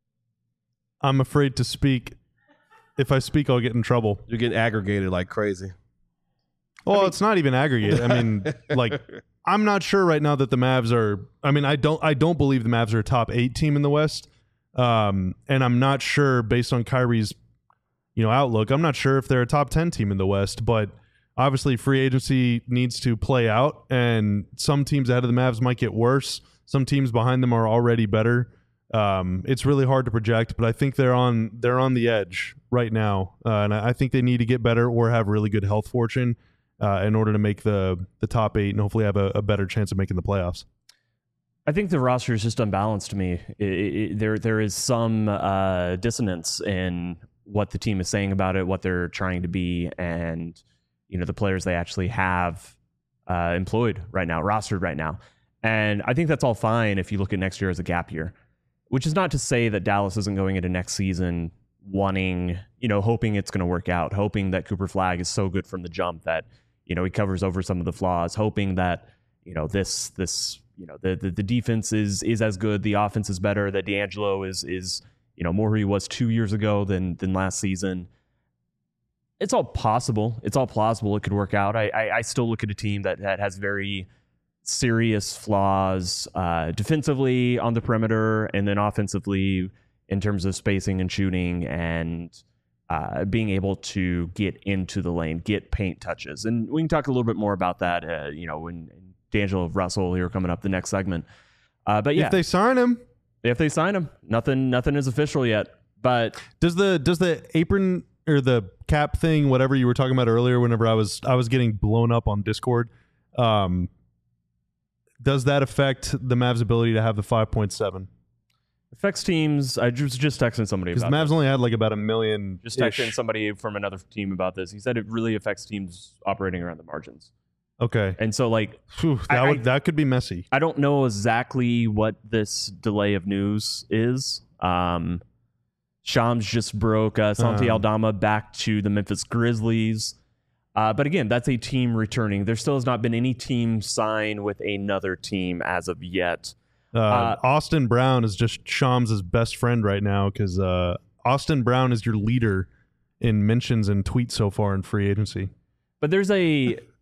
Speaker 2: I'm afraid to speak. If I speak, I'll get in trouble.
Speaker 1: You're getting aggregated like crazy.
Speaker 2: Well,
Speaker 1: I mean,
Speaker 2: it's not even aggregate. I mean, like, I'm not sure right now that the Mavs are. I mean, I don't. I don't believe the Mavs are a top eight team in the West. Um, and I'm not sure, based on Kyrie's, you know, outlook, I'm not sure if they're a top ten team in the West. But obviously, free agency needs to play out, and some teams ahead of the Mavs might get worse. Some teams behind them are already better. Um, it's really hard to project, but I think they're on they're on the edge right now, uh, and I, I think they need to get better or have really good health fortune. Uh, in order to make the the top eight and hopefully have a, a better chance of making the playoffs.
Speaker 4: I think the roster is just unbalanced to me. It, it, there there is some uh, dissonance in what the team is saying about it, what they're trying to be, and you know the players they actually have uh, employed right now, rostered right now. And I think that's all fine if you look at next year as a gap year, which is not to say that Dallas isn't going into next season wanting, you know, hoping it's going to work out, hoping that Cooper Flagg is so good from the jump that you know, he covers over some of the flaws, hoping that, you know, this, this, you know, the, the, the defense is, is as good. The offense is better, that D'Angelo is, is, you know, more who he was two years ago than, than last season. It's all possible. It's all plausible. It could work out. I, I, I still look at a team that, that has very serious flaws, uh, defensively on the perimeter and then offensively in terms of spacing and shooting and, Uh, being able to get into the lane, get paint touches. And we can talk a little bit more about that, uh, you know, when D'Angelo Russell here coming up the next segment. Uh, but yeah,
Speaker 2: if they sign him,
Speaker 4: if they sign him, nothing, nothing is official yet. But
Speaker 2: does the does the apron or the cap thing, whatever you were talking about earlier, whenever I was I was getting blown up on Discord, um, does that affect the Mavs' ability to have the five point seven?
Speaker 4: Affects teams. I was just texting somebody
Speaker 2: because
Speaker 4: about
Speaker 2: the Mavs
Speaker 4: this.
Speaker 2: only had like about a million.
Speaker 4: Just texting somebody from another team about this. He said it really affects teams operating around the margins.
Speaker 2: Okay,
Speaker 4: and so like
Speaker 2: Whew, that
Speaker 4: I,
Speaker 2: would
Speaker 4: I,
Speaker 2: that could be messy.
Speaker 4: I don't know exactly what this delay of news is. Um, Shams just broke uh, Santi
Speaker 2: Um.
Speaker 4: Aldama back to the Memphis Grizzlies. Uh, but again, that's a team returning. There still has not been any team sign with another team as of yet.
Speaker 2: Uh,
Speaker 4: Uh,
Speaker 2: Austin Brown is just Shams' best friend right now because uh, Austin Brown is your leader in mentions and tweets so far in free agency.
Speaker 4: But there's a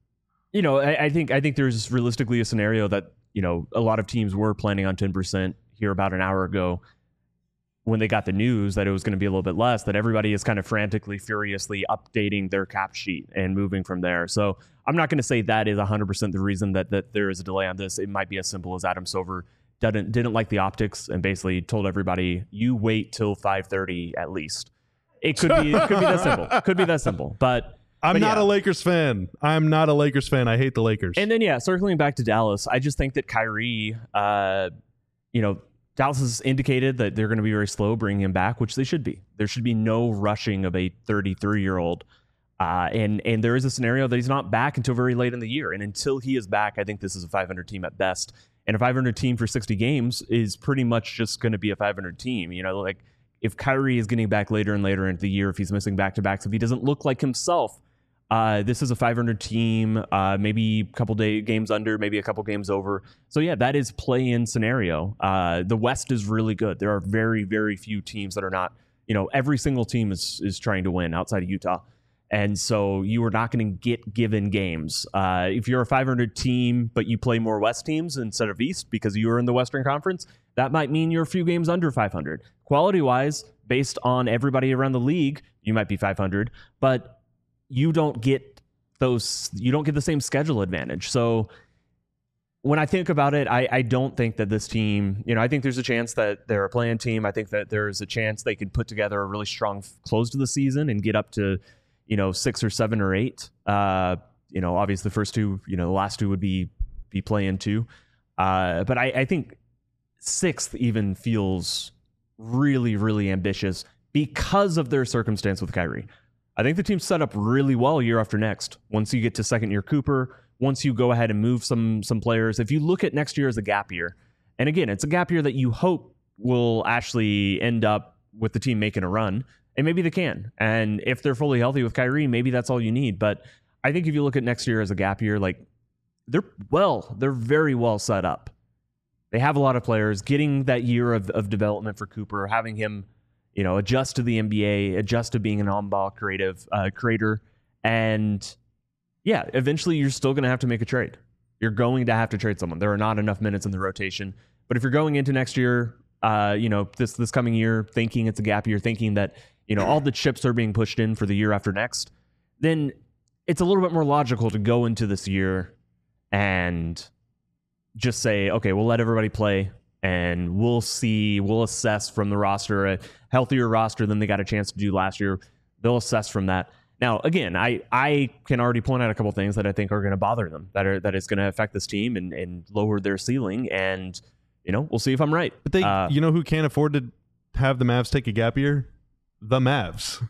Speaker 4: you know, I, I think I think there's realistically a scenario that, you know, a lot of teams were planning on ten percent here about an hour ago when they got the news that it was going to be a little bit less, that everybody is kind of frantically, furiously updating their cap sheet and moving from there. So I'm not going to say that is one hundred percent the reason that, that there is a delay on this. It might be as simple as Adam Silver didn't, didn't like the optics and basically told everybody, you wait till five thirty at least. It could be, it could be that simple. Could be that simple. But
Speaker 2: I'm
Speaker 4: but
Speaker 2: not
Speaker 4: yeah.
Speaker 2: a Lakers fan. I'm not a Lakers fan. I hate the Lakers.
Speaker 4: And then, yeah, circling back to Dallas, I just think that Kyrie, uh, you know, Dallas has indicated that they're going to be very slow bringing him back, which they should be. There should be no rushing of a thirty-three-year-old. Uh, and, and there is a scenario that he's not back until very late in the year. And until he is back, I think this is a five hundred team at best. And a five hundred team for sixty games is pretty much just going to be a five hundred team. You know, like if Kyrie is getting back later and later into the year, if he's missing back-to-backs, if he doesn't look like himself, Uh, this is a five hundred team, uh, maybe a couple day games under, maybe a couple games over. So yeah, that is play-in scenario. Uh, the West is really good. There are very, very few teams that are not, you know, every single team is is trying to win outside of Utah. And so you are not going to get given games. Uh, if you're a five hundred team, but you play more West teams instead of East because you are in the Western Conference, that might mean you're a few games under five hundred. Quality-wise, based on everybody around the league, you might be five hundred, but you don't get those, you don't get the same schedule advantage. So when I think about it, I, I don't think that this team, you know, I think there's a chance that they're a play-in team. I think that there's a chance they could put together a really strong close to the season and get up to, you know, six or seven or eight. Uh, you know, obviously the first two, you know, the last two would be, be play-in two. Uh, but I, I think sixth even feels really, really ambitious because of their circumstance with Kyrie. I think the team's set up really well year after next. Once you get to second year Cooper, once you go ahead and move some some players, if you look at next year as a gap year, and again, it's a gap year that you hope will actually end up with the team making a run, and maybe they can. And if they're fully healthy with Kyrie, maybe that's all you need. But I think if you look at next year as a gap year, like they're well, they're very well set up. They have a lot of players. Getting that year of, of development for Cooper, having him, you know, adjust to the N B A, adjust to being an on-ball creative uh, creator. And yeah, eventually you're still going to have to make a trade. You're going to have to trade someone. There are not enough minutes in the rotation. But if you're going into next year, uh, you know, this this coming year, thinking it's a gap year, thinking that, you know, all the chips are being pushed in for the year after next, then it's a little bit more logical to go into this year and just say, okay, we'll let everybody play. And we'll see, we'll assess from the roster, a healthier roster than they got a chance to do last year. They'll assess from that. Now, again, I, I can already point out a couple things that I think are going to bother them, that are that is going to affect this team and, and lower their ceiling. And, you know, we'll see if I'm right.
Speaker 2: But they,
Speaker 4: uh,
Speaker 2: you know who can't afford to have the Mavs take a gap year? The Mavs.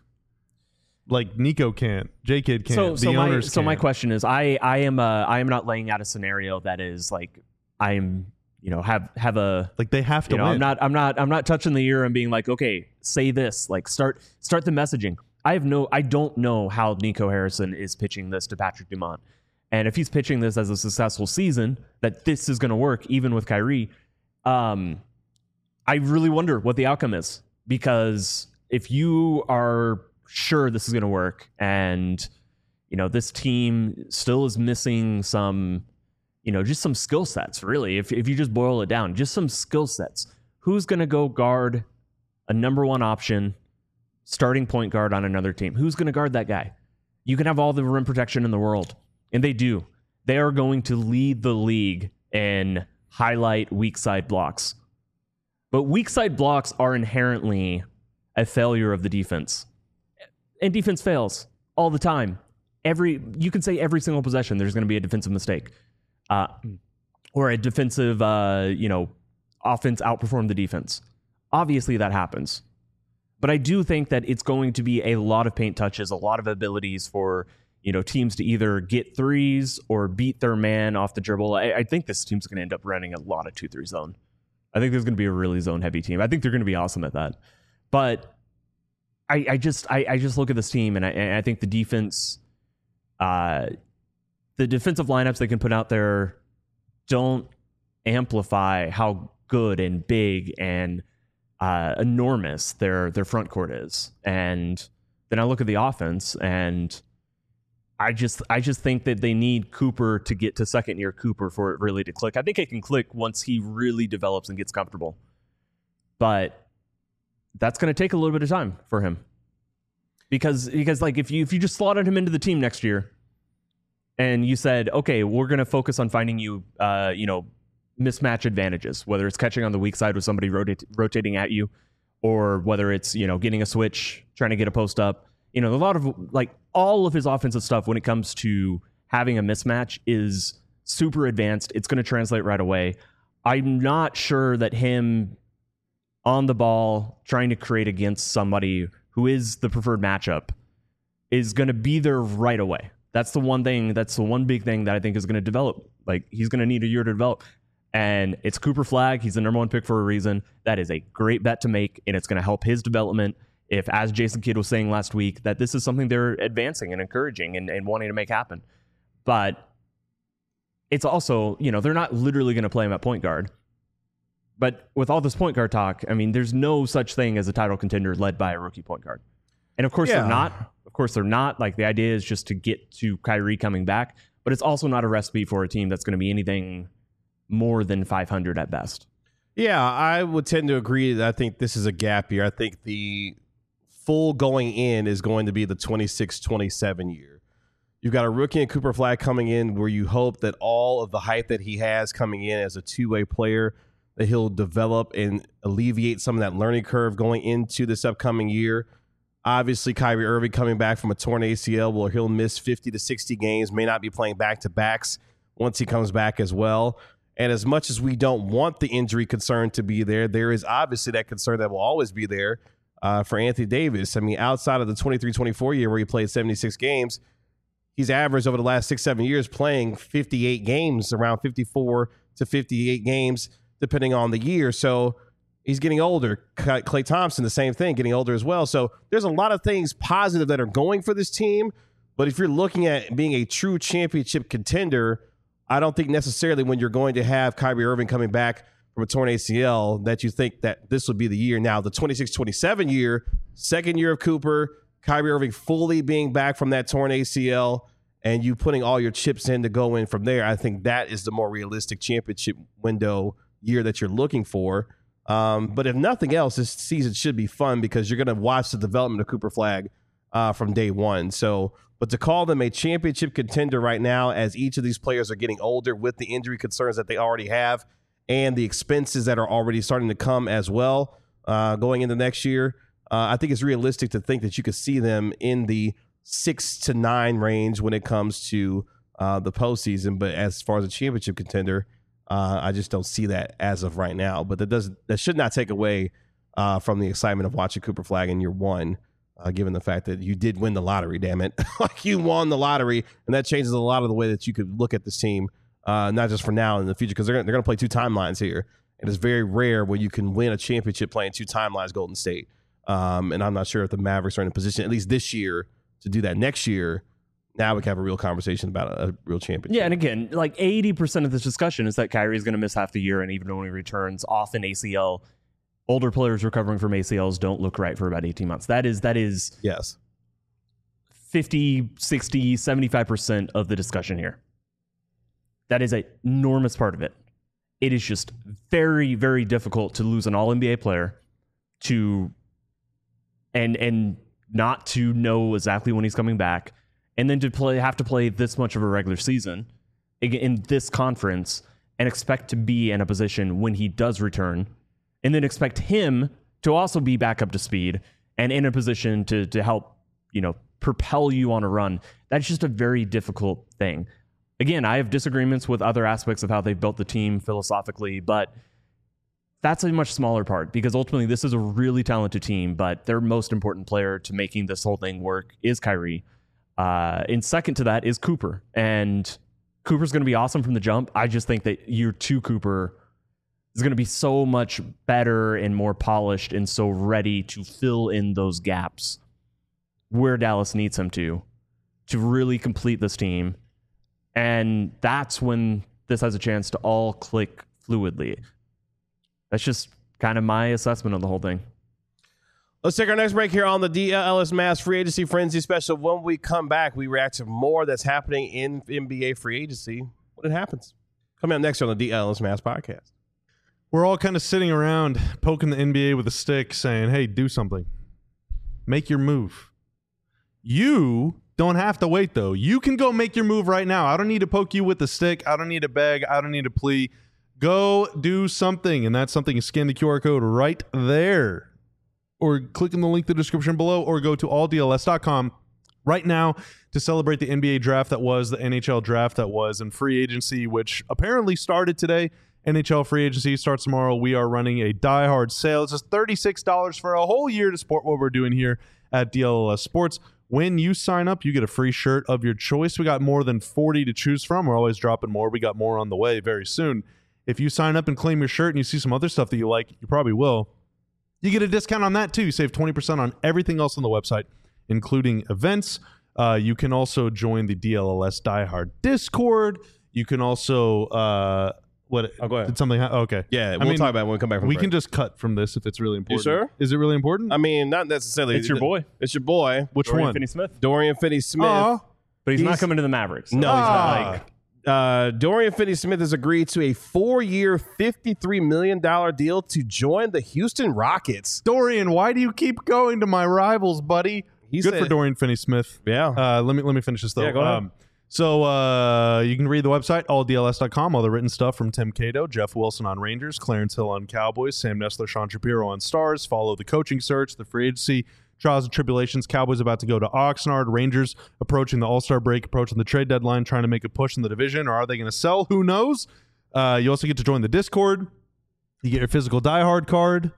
Speaker 2: Like Nico can't, J-Kid can't,
Speaker 4: so,
Speaker 2: the
Speaker 4: so
Speaker 2: owners
Speaker 4: my, So
Speaker 2: can't.
Speaker 4: my question is, I, I am uh, I am not laying out a scenario that is like, I'm, you know, have have a
Speaker 2: Like they have to
Speaker 4: you know,
Speaker 2: win.
Speaker 4: I'm not I'm not I'm not touching the ear and being like, okay, say this, like start start the messaging. I have no I don't know how Nico Harrison is pitching this to Patrick Dumont. And if he's pitching this as a successful season, that this is going to work even with Kyrie, um I really wonder what the outcome is, because if you are sure this is going to work and you know, this team still is missing some, you know, just some skill sets, really. If if you just boil it down, just some skill sets. Who's going to go guard a number one option, starting point guard on another team? Who's going to guard that guy? You can have all the rim protection in the world, and they do. They are going to lead the league in highlight weak side blocks. But weak side blocks are inherently a failure of the defense. And defense fails all the time. Every you can say every single possession there's going to be a defensive mistake. Uh, or a defensive, uh, you know, offense outperformed the defense. Obviously, that happens. But I do think that it's going to be a lot of paint touches, a lot of abilities for, you know, teams to either get threes or beat their man off the dribble. I, I think this team's going to end up running a lot of two three zone. I think there's going to be a really zone-heavy team. I think they're going to be awesome at that. But I, I just I, I just look at this team, and I, and I think the defense... Uh, the defensive lineups they can put out there don't amplify how good and big and uh, enormous their their front court is. And then I look at the offense, and I just I just think that they need Cooper to get to second year Cooper for it really to click. I think it can click once he really develops and gets comfortable. But that's going to take a little bit of time for him. Because because like if you if you just slotted him into the team next year and you said, okay, we're going to focus on finding you uh, you know, mismatch advantages, whether it's catching on the weak side with somebody rotate, rotating at you, or whether it's, you know, getting a switch, trying to get a post up. You know, a lot of like all of his offensive stuff when it comes to having a mismatch is super advanced. It's going to translate right away. I'm not sure that him on the ball trying to create against somebody who is the preferred matchup is going to be there right away. That's the one thing, that's the one big thing that I think is going to develop. Like, he's going to need a year to develop. And it's Cooper Flagg. He's the number one pick for a reason. That is a great bet to make, and it's going to help his development. If, as Jason Kidd was saying last week, that this is something they're advancing and encouraging and, and wanting to make happen. But it's also, you know, they're not literally going to play him at point guard. But with all this point guard talk, I mean, there's no such thing as a title contender led by a rookie point guard. And of course
Speaker 1: Yeah.
Speaker 4: they're not. Of course they're not. Like, the idea is just to get to Kyrie coming back. But it's also not a recipe for a team that's going to be anything more than five hundred at best.
Speaker 1: Yeah, I would tend to agree that I think this is a gap year. I think the full going in is going to be the twenty-six twenty-seven year. You've got a rookie and Cooper Flagg coming in where you hope that all of the hype that he has coming in as a two-way player, that he'll develop and alleviate some of that learning curve going into this upcoming year. Obviously, Kyrie Irving coming back from a torn A C L, well, he'll miss fifty to sixty games, may not be playing back-to-backs once he comes back as well. And as much as we don't want the injury concern to be there, there is obviously that concern that will always be there uh, for Anthony Davis. I mean, outside of the twenty-three twenty-four year where he played seventy-six games, he's averaged over the last six, seven years playing fifty-eight games, around fifty-four to fifty-eight games, depending on the year. So he's getting older. Klay Thompson, the same thing, getting older as well. So there's a lot of things positive that are going for this team. But if you're looking at being a true championship contender, I don't think necessarily when you're going to have Kyrie Irving coming back from a torn A C L that you think that this would be the year. Now, the twenty-six twenty-seven year, second year of Cooper, Kyrie Irving fully being back from that torn A C L, and you putting all your chips in to go in from there, I think that is the more realistic championship window year that you're looking for. Um, but if nothing else, this season should be fun because you're going to watch the development of Cooper Flagg uh, from day one. So, but to call them a championship contender right now, as each of these players are getting older with the injury concerns that they already have and the expenses that are already starting to come as well uh, going into next year, uh, I think it's realistic to think that you could see them in the six to nine range when it comes to uh, the postseason. But as far as a championship contender, uh, I just don't see that as of right now. But that does that should not take away uh, from the excitement of watching Cooper Flagg in year one. Uh, given the fact that you did win the lottery, damn it. Like, you won the lottery, and that changes a lot of the way that you could look at this team, uh, not just for now and in the future, because they're, they're going to play two timelines here. And it's very rare where you can win a championship playing two timelines, Golden State. Um, and I'm not sure if the Mavericks are in a position, at least this year, to do that. Next year, now we can have a real conversation about a, a real championship.
Speaker 4: Yeah, and again, like eighty percent of this discussion is that Kyrie is going to miss half the year, and even when he returns off an A C L, older players recovering from A C Ls don't look right for about eighteen months. That is, that is
Speaker 1: yes,
Speaker 4: fifty, sixty, seventy-five percent of the discussion here. That is an enormous part of it. It is just very, very difficult to lose an all N B A player to and and not to know exactly when he's coming back, and then to play have to play this much of a regular season in this conference and expect to be in a position when he does return, and then expect him to also be back up to speed and in a position to to help, you know, propel you on a run. That's just a very difficult thing. Again, I have disagreements with other aspects of how they've built the team philosophically, but that's a much smaller part because ultimately this is a really talented team, but their most important player to making this whole thing work is Kyrie. Uh, and second to that is Cooper. And Cooper's going to be awesome from the jump. I just think that year two Cooper is going to be so much better and more polished and so ready to fill in those gaps where Dallas needs him to, to really complete this team. And that's when this has a chance to all click fluidly. That's just kind of my assessment of the whole thing.
Speaker 1: Let's take our next break here on the D L L S Mavs Free Agency Frenzy Special. When we come back, we react to more that's happening in N B A free agency when it happens. Coming up next on the D L L S Mavs podcast.
Speaker 2: We're all kind of sitting around poking the N B A with a stick saying, hey, do something. Make your move. You don't have to wait, though. You can go make your move right now. I don't need to poke you with the stick. I don't need to beg. I don't need to plea. Go do something, and that something is scan the Q R code right there. Or click in the link in the description below, or go to all D L S dot com right now to celebrate the N B A draft that was, the N H L draft that was, and free agency, which apparently started today. N H L free agency starts tomorrow. We are running a diehard sale. It's just thirty-six dollars for a whole year to support what we're doing here at D L L S Sports. When you sign up, you get a free shirt of your choice. We got more than forty to choose from. We're always dropping more. We got more on the way very soon. If you sign up and claim your shirt and you see some other stuff that you like, you probably will. You get a discount on that too. You save twenty percent on everything else on the website, including events. Uh, you can also join the D L L S Diehard Discord. You can also uh, what?
Speaker 1: Oh, go ahead.
Speaker 2: Did something? Ha- oh, okay.
Speaker 1: Yeah,
Speaker 2: I
Speaker 1: we'll
Speaker 2: mean,
Speaker 1: talk about it when we come back from
Speaker 2: We
Speaker 1: break.
Speaker 2: can just cut from this if it's really important.
Speaker 1: sure?
Speaker 2: Is it really important?
Speaker 1: I mean, not necessarily.
Speaker 4: It's your boy.
Speaker 1: It's your boy.
Speaker 2: Which
Speaker 4: Dorian
Speaker 2: one?
Speaker 4: Finney-Smith.
Speaker 1: Dorian Finney-Smith.
Speaker 2: Aw.
Speaker 4: But he's,
Speaker 1: He's-
Speaker 4: not coming to the Mavericks.
Speaker 1: No, he's
Speaker 2: Ah.
Speaker 1: not. Like, uh, Dorian Finney-Smith has agreed to a four-year, fifty-three million dollars deal to join the Houston Rockets.
Speaker 2: Dorian, why do you keep going to my rivals, buddy?
Speaker 1: He
Speaker 2: Good
Speaker 1: said-
Speaker 2: for Dorian Finney-Smith.
Speaker 1: Yeah.
Speaker 2: Uh, let me let me finish this though.
Speaker 1: Yeah, go ahead.
Speaker 2: Um, so uh, you can read the website, all D L S dot com, all the written stuff from Tim Cato, Jeff Wilson on Rangers, Clarence Hill on Cowboys, Sam Nessler, Sean Shapiro on Stars. Follow the coaching search, the free agency, trials and tribulations. Cowboys about to go to Oxnard. Rangers approaching the All-Star break, approaching the trade deadline, trying to make a push in the division. Or are they going to sell? Who knows? Uh, you also get to join the Discord. You get your physical diehard card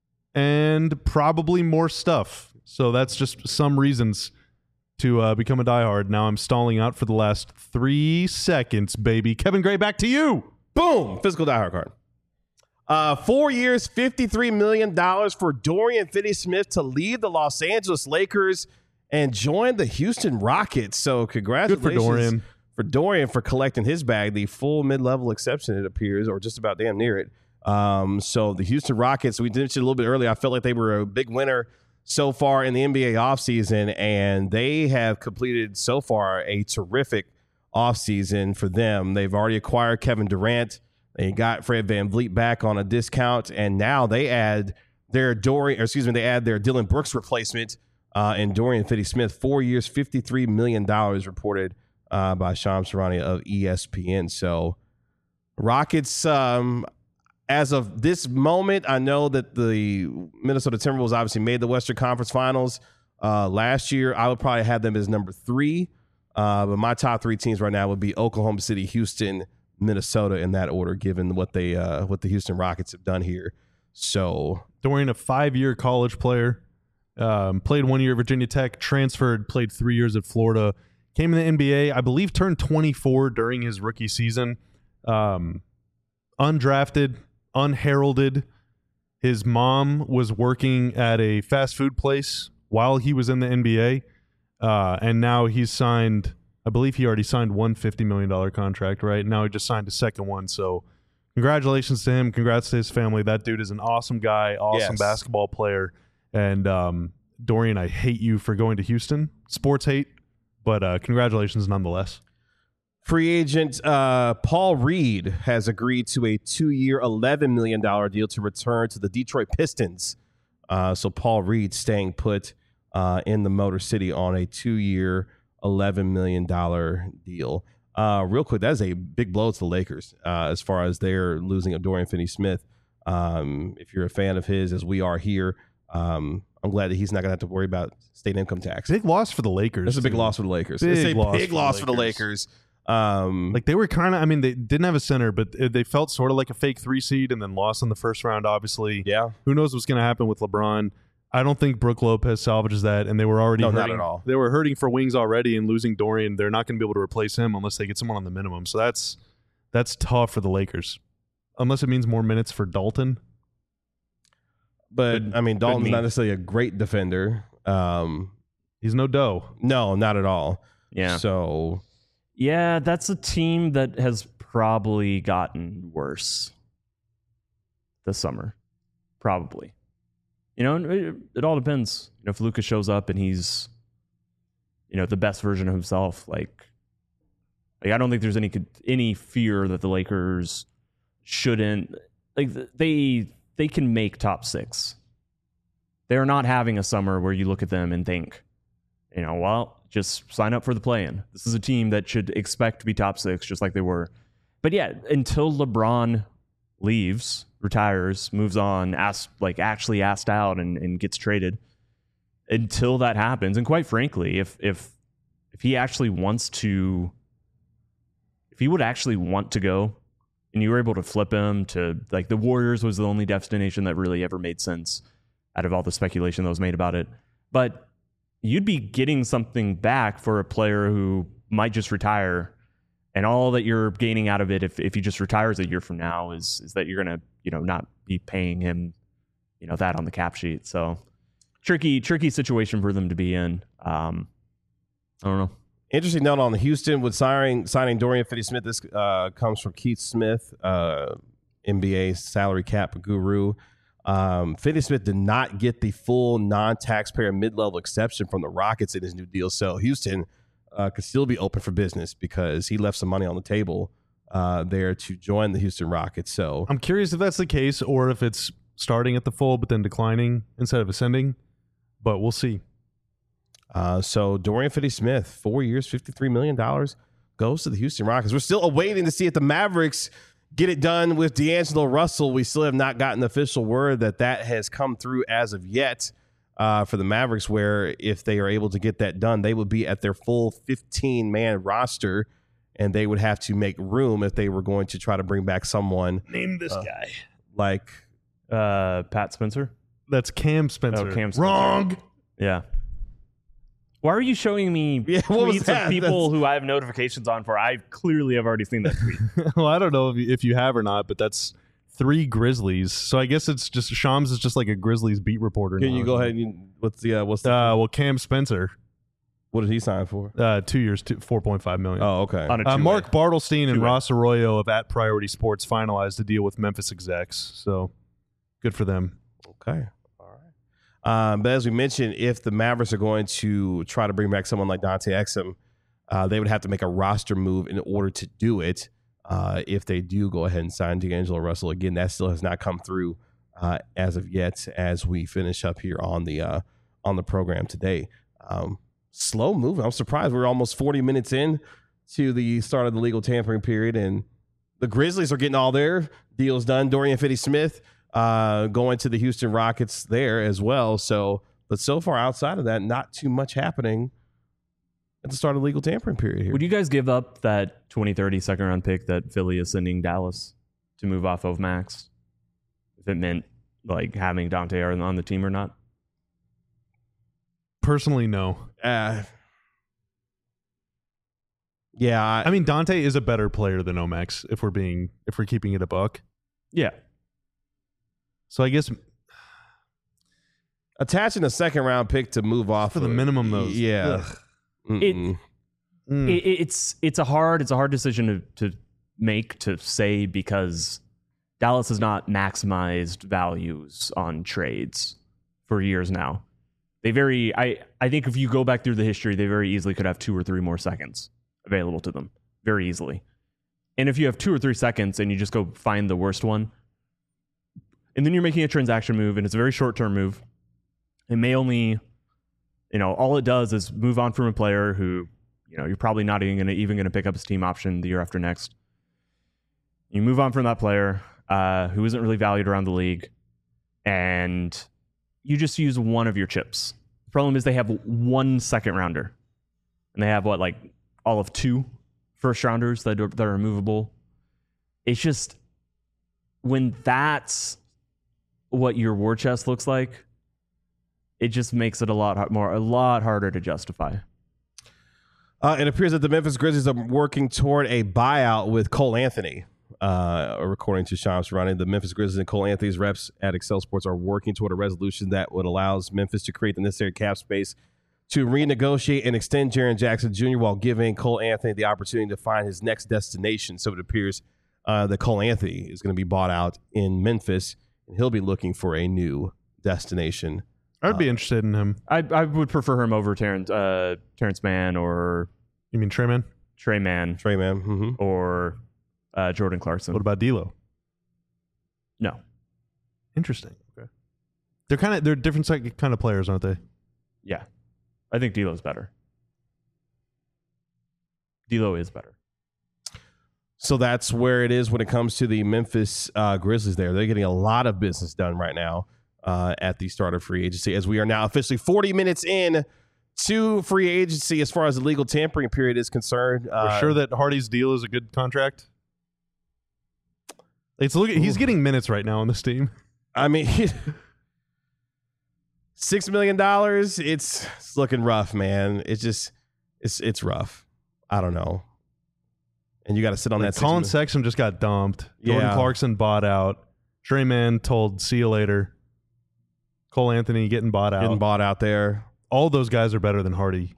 Speaker 2: and probably more stuff. So that's just some reasons to uh, become a diehard. Now I'm stalling out for the last three seconds, baby. Kevin Gray, back to you.
Speaker 1: Boom. Physical diehard card. Uh, four years, fifty-three million dollars for Dorian Finney-Smith to leave the Los Angeles Lakers and join the Houston Rockets. So congratulations
Speaker 2: Good for Dorian.
Speaker 1: for Dorian for collecting his bag, the full mid-level exception, it appears, or just about damn near it. Um, so the Houston Rockets, we mentioned a little bit earlier, I felt like they were a big winner so far in the N B A offseason, and they have completed so far a terrific offseason for them. They've already acquired Kevin Durant. They got Fred VanVleet back on a discount, and now they add their Dorian, or excuse me, they add their Dylan Brooks replacement uh, in Dorian Finney-Smith. Four years, fifty-three million dollars reported uh, by Shams Charania of E S P N. So Rockets, um, as of this moment, I know that the Minnesota Timberwolves obviously made the Western Conference Finals uh, last year. I would probably have them as number three, uh, but my top three teams right now would be Oklahoma City, Houston, Minnesota in that order, given what they uh, what the Houston Rockets have done here. So
Speaker 2: Dorian, a five-year college player, um, played one year at Virginia Tech, transferred, played three years at Florida, came in the N B A, I believe turned twenty-four during his rookie season, um, undrafted, unheralded. His mom was working at a fast food place while he was in the N B A, uh, and now he's signed, I believe he already signed one fifty million dollars contract, right? Now he just signed a second one, so congratulations to him. Congrats to his family. That dude is an awesome guy, awesome
Speaker 1: Yes.
Speaker 2: basketball player. And um, Dorian, I hate you for going to Houston. Sports hate, but uh, congratulations nonetheless.
Speaker 1: free agent uh, Paul Reed has agreed to a two-year, eleven million dollars deal to return to the Detroit Pistons. Uh, so Paul Reed staying put uh, in the Motor City on a two-year, eleven million dollars deal. Uh, real quick, that is a big blow to the Lakers uh, as far as their losing of Dorian Finney-Smith. Um, if you're a fan of his, as we are here, um, I'm glad that he's not going to have to worry about state income tax.
Speaker 2: Big loss for the Lakers.
Speaker 1: It's a big
Speaker 2: too.
Speaker 1: loss for the Lakers.
Speaker 2: Big
Speaker 1: it's a
Speaker 2: loss
Speaker 1: big
Speaker 2: for the
Speaker 1: loss for the
Speaker 2: Lakers.
Speaker 1: Lakers. Um,
Speaker 2: Like they were kind of, I mean, they didn't have a center, but they felt sort of like a fake three seed and then lost in the first round, obviously.
Speaker 1: yeah.
Speaker 2: Who knows what's going to happen with LeBron? I don't think Brooke Lopez salvages that, and they were already
Speaker 1: No,
Speaker 2: hurting.
Speaker 1: not at all.
Speaker 2: They were hurting for wings already, and losing Dorian, they're not going to be able to replace him unless they get someone on the minimum. So that's that's tough for the Lakers, unless it means more minutes for Dalton.
Speaker 1: But I mean, Dalton's
Speaker 4: mean.
Speaker 1: not necessarily a great defender. Um,
Speaker 2: He's no dough.
Speaker 1: no, not at all.
Speaker 4: Yeah.
Speaker 1: So
Speaker 4: Yeah, that's a team that has probably gotten worse this summer. Probably. You know, it, it all depends. You know, if Luka shows up and he's, you know, the best version of himself, like, like I don't think there's any any fear that the Lakers shouldn't, like, they they can make top six. They're not having a summer where you look at them and think, you know, well, just sign up for the play-in. This is a team that should expect to be top six, just like they were. But yeah, until LeBron leaves, retires, moves on, asks, like actually asked out and, and gets traded, until that happens, and quite frankly, if if if he actually wants to, if he would actually want to go, and you were able to flip him to, like, the Warriors was the only destination that really ever made sense out of all the speculation that was made about it. But you'd be getting something back for a player who might just retire, and all that you're gaining out of it, if, if he just retires a year from now, is is that you're gonna, you know, not be paying him, you know, that on the cap sheet. So tricky, tricky situation for them to be in. Um, I don't know.
Speaker 1: Interesting note on Houston with signing signing Dorian Finney-Smith. This uh, comes from Keith Smith, uh, N B A salary cap guru. Um, Finney-Smith did not get the full non-taxpayer mid-level exception from the Rockets in his new deal, so Houston uh, could still be open for business because he left some money on the table uh, there to join the Houston Rockets. So
Speaker 2: I'm curious if that's the case or if it's starting at the full but then declining instead of ascending, but we'll see.
Speaker 1: Uh, so Dorian Finney-Smith, four years, fifty-three million dollars, goes to the Houston Rockets. We're still awaiting to see if the Mavericks get it done with D'Angelo Russell. We still have not gotten official word that that has come through as of yet uh, for the Mavericks, where if they are able to get that done, they would be at their full fifteen-man roster, and they would have to make room if they were going to try to bring back someone.
Speaker 2: Name this
Speaker 1: uh,
Speaker 2: guy.
Speaker 1: Like
Speaker 4: Uh, Pat Spencer?
Speaker 2: That's Cam Spencer.
Speaker 4: Oh, Cam Spencer.
Speaker 2: Wrong.
Speaker 4: Yeah. Why are you showing me
Speaker 1: Yeah, what was
Speaker 4: tweets
Speaker 1: that?
Speaker 4: of people
Speaker 1: That's-
Speaker 4: who I have notifications on for? I clearly have already seen that tweet.
Speaker 2: Well, I don't know if you, if you have or not, but that's three Grizzlies. So I guess it's just Shams is just like a Grizzlies beat reporter.
Speaker 1: can
Speaker 2: now.
Speaker 1: you go ahead and what's the uh, what's the,
Speaker 2: Uh, well, Cam Spencer,
Speaker 1: what did he sign for?
Speaker 2: uh, two years, two, four point five million.
Speaker 1: Oh, okay.
Speaker 4: On a
Speaker 2: Uh,
Speaker 4: two-way.
Speaker 2: Mark Bartlestein and
Speaker 4: Two-way.
Speaker 2: Ross Arroyo of At Priority Sports finalized the deal with Memphis execs. So good for them.
Speaker 1: Okay. All right. Um, but as we mentioned, if the Mavericks are going to try to bring back someone like Dante Exum, uh, they would have to make a roster move in order to do it. Uh, if they do go ahead and sign D'Angelo Russell again, that still has not come through uh, as of yet. As we finish up here on the uh, on the program today, um, slow moving. I'm surprised we're almost forty minutes in to the start of the legal tampering period, and the Grizzlies are getting all their deals done. Dorian Finney-Smith uh, going to the Houston Rockets there as well. So, but so far outside of that, not too much happening at the start of the legal tampering period here.
Speaker 4: Would you guys give up that twenty thirty second round pick that Philly is sending Dallas to move off of Max? If it meant like having Dante on on the team or not?
Speaker 2: Personally, no.
Speaker 1: Uh, yeah, I,
Speaker 2: I mean, Dante is a better player than Omax if we're being if we're keeping it a buck.
Speaker 4: Yeah.
Speaker 2: So I guess
Speaker 1: attaching a second round pick to move off
Speaker 2: for the
Speaker 1: of-
Speaker 2: minimum, though.
Speaker 1: Yeah,
Speaker 2: Ugh.
Speaker 1: Mm-mm.
Speaker 2: Mm.
Speaker 4: It, it's it's a hard it's a hard decision to, to make to say because Dallas has not maximized values on trades for years now. They very I, I think if you go back through the history, they very easily could have two or three more seconds available to them. Very easily. And if you have two or three seconds and you just go find the worst one, and then you're making a transaction move and it's a very short term move, it may only, you know, all it does is move on from a player who, you know, you're probably not even gonna even gonna pick up his team option the year after next. You move on from that player uh, who isn't really valued around the league, and you just use one of your chips. The problem is they have one second rounder, and they have what, like all of two first rounders that are, that are movable. It's just when that's what your war chest looks like, it just makes it a lot more a lot harder to justify.
Speaker 1: Uh, it appears that the Memphis Grizzlies are working toward a buyout with Cole Anthony. Uh, according to Shams Charania, the Memphis Grizzlies and Cole Anthony's reps at Excel Sports are working toward a resolution that would allow Memphis to create the necessary cap space to renegotiate and extend Jaren Jackson Junior while giving Cole Anthony the opportunity to find his next destination. So it appears uh, that Cole Anthony is going to be bought out in Memphis, and he'll be looking for a new destination.
Speaker 2: I'd be
Speaker 1: Uh,
Speaker 2: interested in him.
Speaker 4: I I would prefer him over Terrence uh, Terrence Mann or
Speaker 2: You mean Trey Man?
Speaker 4: Trey Mann
Speaker 1: Trey Man. Mm-hmm.
Speaker 4: or uh, Jordan Clarkson.
Speaker 2: What about D'Lo?
Speaker 4: No.
Speaker 2: Interesting. Okay. They're kind of they're different psych- kind of players, aren't they?
Speaker 4: Yeah. I think D'Lo's better. D'Lo is better.
Speaker 1: So that's where it is when it comes to the Memphis uh, Grizzlies there. They're getting a lot of business done right now uh, at the start of free agency, as we are now officially forty minutes in to free agency as far as the legal tampering period is concerned.
Speaker 2: We're
Speaker 1: Uh,
Speaker 2: sure that Hardy's deal is a good contract. It's look. He's getting minutes right now on this team.
Speaker 1: I mean, six million dollars. It's, it's looking rough, man. It's just it's it's rough. I don't know. And you got to sit on
Speaker 2: Like
Speaker 1: that.
Speaker 2: Colin
Speaker 1: six
Speaker 2: Sexton just got dumped. Jordan
Speaker 1: Yeah.
Speaker 2: Clarkson bought out. Trey Man told see you later. Cole Anthony getting bought out.
Speaker 1: getting bought out there.
Speaker 2: All those guys are better than Hardy.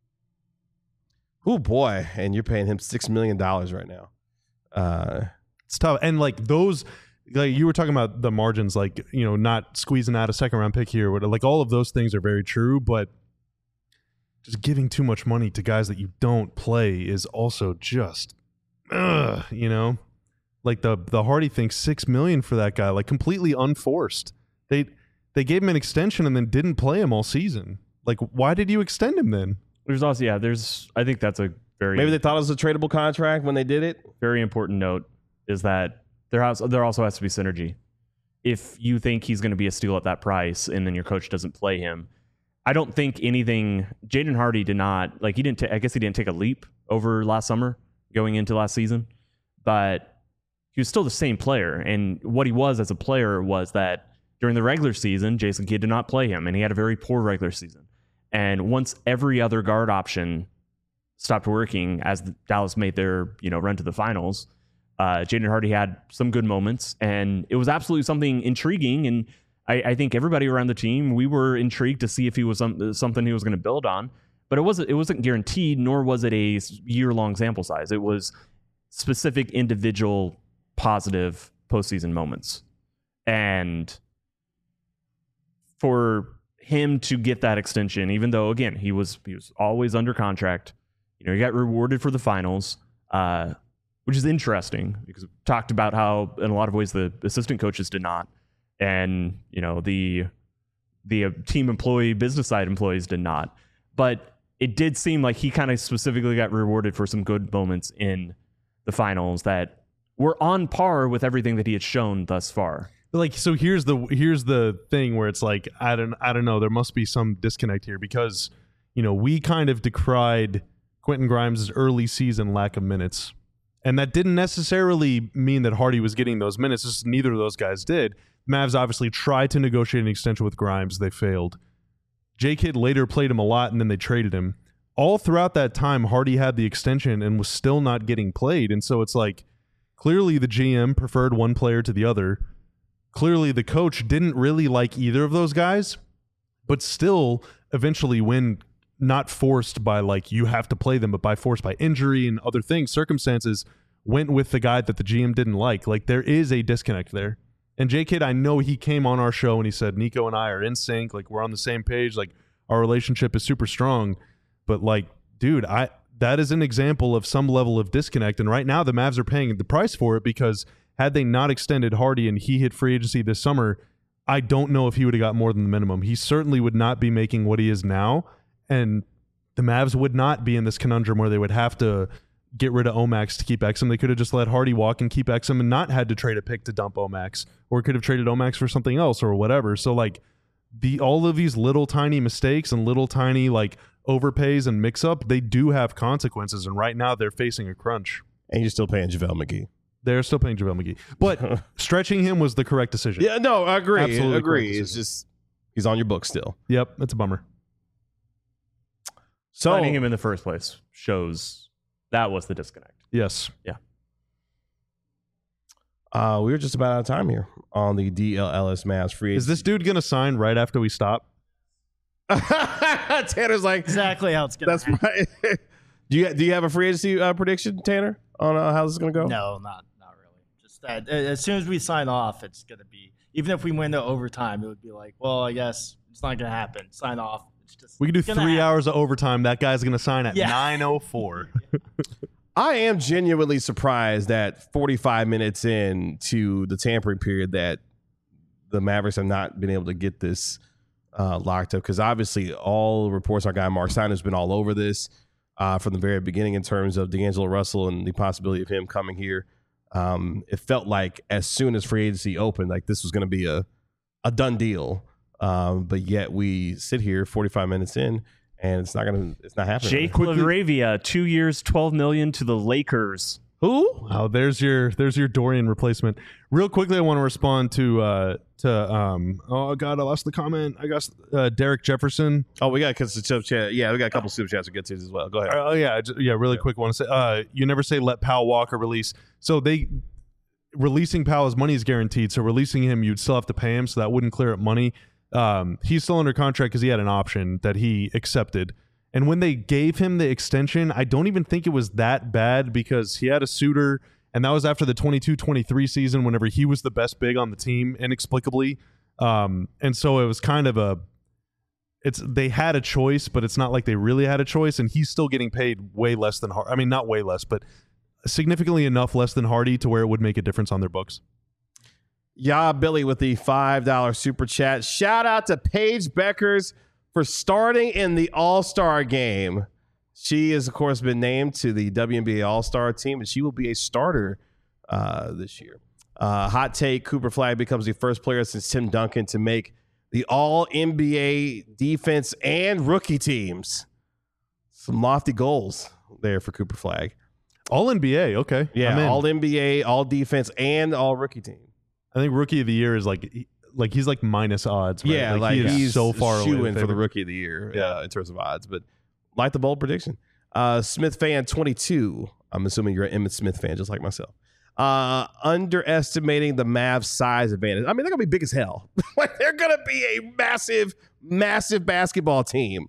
Speaker 1: Oh boy, and you're paying him six million dollars right now. Uh,
Speaker 2: It's tough. And like those, like you were talking about the margins, like, you know, not squeezing out a second round pick here. Like all of those things are very true, but just giving too much money to guys that you don't play is also just, ugh, you know, like the the Hardy thing, six million for that guy, like completely unforced. They they gave him an extension and then didn't play him all season. Like, why did you extend him then?
Speaker 4: There's also, yeah, there's, I think that's a very,
Speaker 1: maybe they thought it was a tradable contract when they did it.
Speaker 4: very important note is that there has, there also has to be synergy. If you think he's going to be a steal at that price and then your coach doesn't play him, I don't think anything, Jaden Hardy did not, like he didn't, ta- I guess he didn't take a leap over last summer going into last season, but he was still the same player. And what he was as a player was that during the regular season, Jason Kidd did not play him and he had a very poor regular season. And once every other guard option stopped working as the Dallas made their, you know, run to the finals, uh, Jaden Hardy had some good moments, and it was absolutely something intriguing. And I, I think everybody around the team, we were intrigued to see if he was some, something he was going to build on. But it wasn't. It wasn't guaranteed, nor was it a year-long sample size. It was specific individual positive postseason moments, and for him to get that extension, even though again he was he was always under contract, you know, he got rewarded for the finals, uh, which is interesting because we talked about how in a lot of ways the assistant coaches did not, and you know the the uh, team employee business side employees did not, but it did seem like he kind of specifically got rewarded for some good moments in the finals that were on par with everything that he had shown thus far.
Speaker 2: Like, so here's the here's the thing where it's like, I don't I don't know, there must be some disconnect here because, you know, we kind of decried Quentin Grimes' early season lack of minutes. And that didn't necessarily mean that Hardy was getting those minutes. Just neither of those guys did. Mavs obviously tried to negotiate an extension with Grimes. They failed. J-Kidd later played him a lot, and then they traded him. All throughout that time, Hardy had the extension and was still not getting played. And so it's like, clearly the G M preferred one player to the other. Clearly the coach didn't really like either of those guys, but still eventually when not forced by like you have to play them, but by forced by injury and other things, circumstances, went with the guy that the G M didn't like. Like there is a disconnect there. And J-Kidd, I know he came on our show and he said, Nico and I are in sync. Like we're on the same page. Like our relationship is super strong. But like, dude, I that is an example of some level of disconnect. And right now the Mavs are paying the price for it because had they not extended Hardy and he hit free agency this summer, I don't know if he would have got more than the minimum. He certainly would not be making what he is now. And the Mavs would not be in this conundrum where they would have to get rid of Omax to keep Exum. They could have just let Hardy walk and keep Exum and not had to trade a pick to dump Omax, or could have traded Omax for something else or whatever. So like the all of these little tiny mistakes and little tiny like overpays and mix up, they do have consequences. And right now they're facing a crunch.
Speaker 1: And you're still paying JaVale McGee.
Speaker 2: They're still paying JaVale McGee. But stretching him was the correct decision.
Speaker 1: Yeah, no, I agree.
Speaker 2: Absolutely
Speaker 1: agree.
Speaker 2: correct
Speaker 1: It's just he's on your book still.
Speaker 2: Yep, it's a bummer.
Speaker 1: So
Speaker 4: Signing him in the first place shows that was the disconnect.
Speaker 2: Yes.
Speaker 4: Yeah.
Speaker 1: uh, we were just about out of time here on the D L L S Mavs free.
Speaker 2: Is this dude going to sign right after we stop?
Speaker 1: Tanner's like
Speaker 5: Exactly how it's gonna
Speaker 1: that's
Speaker 5: happen.
Speaker 1: right. do you do you have a free agency uh, prediction, Tanner, on uh, how this is going to go?
Speaker 5: No, not not really. Just that as soon as we sign off, it's going to be, even if we win the overtime, it would be like, well, I guess it's not going to happen. Sign off. It's just
Speaker 2: We can do three
Speaker 5: happen.
Speaker 2: hours of overtime. That guy's going to sign at
Speaker 5: Yeah.
Speaker 2: nine oh four.
Speaker 1: I am genuinely surprised that forty-five minutes in to the tampering period that the Mavericks have not been able to get this uh, locked up, because obviously all reports our guy Mark Steiner has been all over this uh, from the very beginning in terms of D'Angelo Russell and the possibility of him coming here. Um, it felt like as soon as free agency opened, like this was going to be a, a done deal. Um, but yet we sit here forty-five minutes in and it's not going to, it's not happening.
Speaker 4: Jake LaRavia, two years, twelve million to the Lakers.
Speaker 1: Who?
Speaker 2: Oh, there's your there's your Dorian replacement. Real quickly, I want to respond to uh, to um. Oh God, I lost the comment. I got uh, Derek Jefferson.
Speaker 1: Oh, we got because the super chat. Yeah, we got a couple super chats to get to as well. Go ahead.
Speaker 2: Oh yeah, j- yeah. Really quick, want to say uh, you never say let Powell walk or release. So they releasing Powell's money is guaranteed. So releasing him, you'd still have to pay him. So that wouldn't clear up money. Um, he's still under contract because he had an option that he accepted. And when they gave him the extension, I don't even think it was that bad because he had a suitor, and that was after the twenty-two twenty-three season whenever he was the best big on the team, inexplicably. Um, and so it was kind of a it's they had a choice, but it's not like they really had a choice, and he's still getting paid way less than Hardy. I mean, not way less, but significantly enough less than Hardy to where it would make a difference on their books.
Speaker 1: Yeah, Billy with the five dollars super chat. Shout out to Paige Beckers for starting in the All-Star game. She has, of course, been named to the W N B A All-Star team, and she will be a starter uh, this year. Uh, hot take, Cooper Flagg becomes the first player since Tim Duncan to make the All-N B A defense and rookie teams. Some lofty goals there for Cooper Flagg.
Speaker 2: All N B A, okay.
Speaker 1: Yeah,
Speaker 2: I'm in.
Speaker 1: All-N B A, All-Defense, and All-Rookie team.
Speaker 2: I think Rookie of the Year is like like he's like minus odds. Right?
Speaker 1: Yeah,
Speaker 2: like,
Speaker 1: like,
Speaker 2: he is
Speaker 1: he's
Speaker 2: so far away
Speaker 1: shoo-in for the
Speaker 2: favorite.
Speaker 1: Rookie of the Year
Speaker 2: Yeah.
Speaker 1: uh, in terms of odds. But like the bold prediction. Uh, Smith fan twenty-two. I'm assuming you're an Emmitt Smith fan, just like myself. Uh, underestimating the Mavs size advantage. I mean, they're gonna be big as hell. Like they're gonna be a massive, massive basketball team.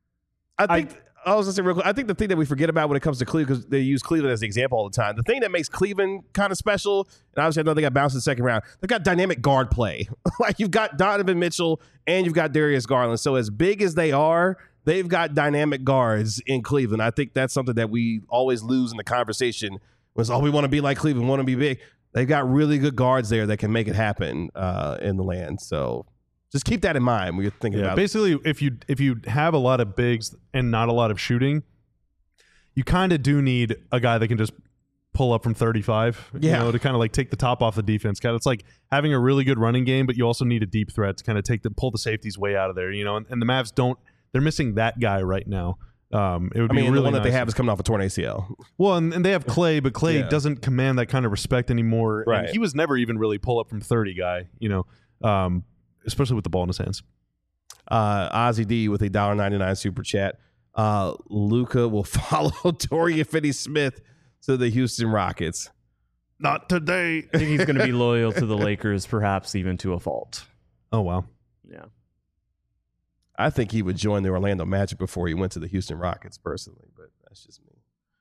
Speaker 1: I think. I, I was gonna say real quick. I think the thing that we forget about when it comes to Cleveland, because they use Cleveland as the example all the time. The thing that makes Cleveland kind of special, and obviously I know they got bounced in the second round. They've got dynamic guard play. Like you've got Donovan Mitchell and you've got Darius Garland. So as big as they are, they've got dynamic guards in Cleveland. I think that's something that we always lose in the conversation. Was oh we want to be like Cleveland, want to be big. They've got really good guards there that can make it happen uh, in the land. So just keep that in mind when you're thinking
Speaker 2: Yeah,
Speaker 1: about
Speaker 2: basically, if you if you have a lot of bigs and not a lot of shooting, you kind of do need a guy that can just pull up from thirty-five.
Speaker 1: Yeah.
Speaker 2: You know, to kind of like take the top off the defense. Kind of, it's like having a really good running game, but you also need a deep threat to kind of take the pull the safeties way out of there. You know, and, and the Mavs don't. They're missing that guy right now. Um, it would
Speaker 1: I
Speaker 2: be
Speaker 1: mean,
Speaker 2: really
Speaker 1: the one that
Speaker 2: nice.
Speaker 1: they have is coming off a torn A C L.
Speaker 2: Well, and, and they have Clay, but Clay
Speaker 1: Yeah.
Speaker 2: doesn't command that kind of respect anymore. And
Speaker 1: Right.
Speaker 2: he was never even really pull up from thirty guy. You know, um, especially with the ball in his hands.
Speaker 1: Uh, Ozzy D with a one dollar ninety-nine super chat. Uh, Luca will follow Dorian Finney-Smith to the Houston Rockets.
Speaker 2: Not today.
Speaker 4: I think he's going to be loyal to the Lakers, perhaps even to a fault.
Speaker 2: Oh wow.
Speaker 4: Yeah.
Speaker 1: I think he would join the Orlando Magic before he went to the Houston Rockets, personally, but that's just me.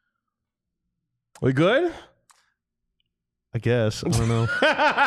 Speaker 1: We good?
Speaker 2: I guess. I don't know.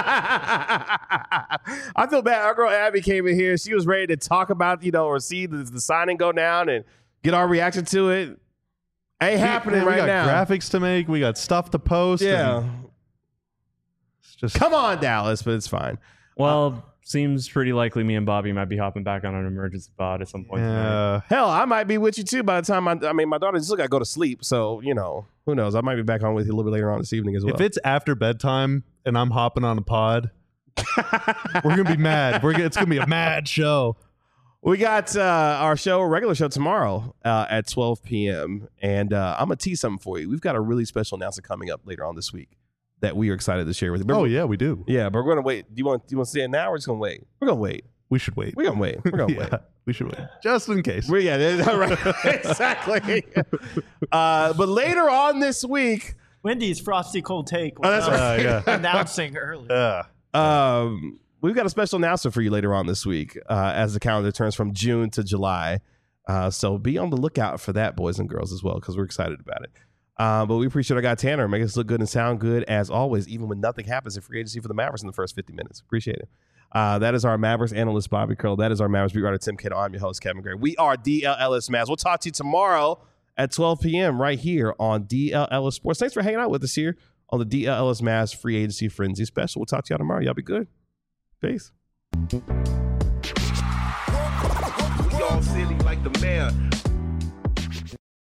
Speaker 1: I feel bad. Our girl Abby came in here. She was ready to talk about, you know, or see the, the signing go down and get our reaction to it. Ain't happening
Speaker 2: we
Speaker 1: right
Speaker 2: got
Speaker 1: now.
Speaker 2: graphics to make. We got stuff to post.
Speaker 1: Yeah.
Speaker 2: and It's just
Speaker 1: Come on, Dallas, but it's fine.
Speaker 4: Well, seems pretty likely me and Bobby might be hopping back on an emergency pod at some point tonight.
Speaker 2: yeah.
Speaker 1: Hell, I might be with you too by the time I, I mean, my daughter still got to go to sleep. So, you know, who knows? I might be back on with you a little bit later on this evening as well.
Speaker 2: If it's after bedtime and I'm hopping on a pod, we're gonna be mad. We're gonna, it's gonna be a mad show.
Speaker 1: We got uh, our show, regular show tomorrow uh, at twelve p.m. And uh, I'm going to tease something for you. We've got a really special announcement coming up later on this week that we are excited to share with you.
Speaker 2: Oh yeah, we do.
Speaker 1: Yeah, but we're going to wait. Do you want do you want to say it now or just going to wait? We're going to wait.
Speaker 2: We should wait.
Speaker 1: We're going to wait. We're going to
Speaker 2: Yeah,
Speaker 1: wait.
Speaker 2: we should wait just in case.
Speaker 1: We, yeah, that's right. Exactly. Uh, but later on this week,
Speaker 5: Wendy's Frosty Cold Take was
Speaker 1: Oh, that's
Speaker 5: uh,
Speaker 2: right. Uh, yeah.
Speaker 5: announcing earlier.
Speaker 2: Yeah.
Speaker 1: Um, we've got a special announcement for you later on this week uh, as the calendar turns from June to July. Uh, so be on the lookout for that, boys and girls, as well, because we're excited about it. Uh, but we appreciate our guy Tanner making us look good and sound good as always, even when nothing happens in free agency for the Mavericks in the first fifty minutes. Appreciate it. Uh, that is our Mavericks analyst, Bobby Curl. That is our Mavericks beat writer, Tim Cato. I'm your host, Kevin Gray. We are D L L S Mavs. We'll talk to you tomorrow at twelve p.m. right here on D L L S Sports. Thanks for hanging out with us here on the D L L S Mavs Free Agency Frenzy Special. We'll talk to y'all tomorrow. Y'all be good. Peace.
Speaker 6: We all silly like the mayor.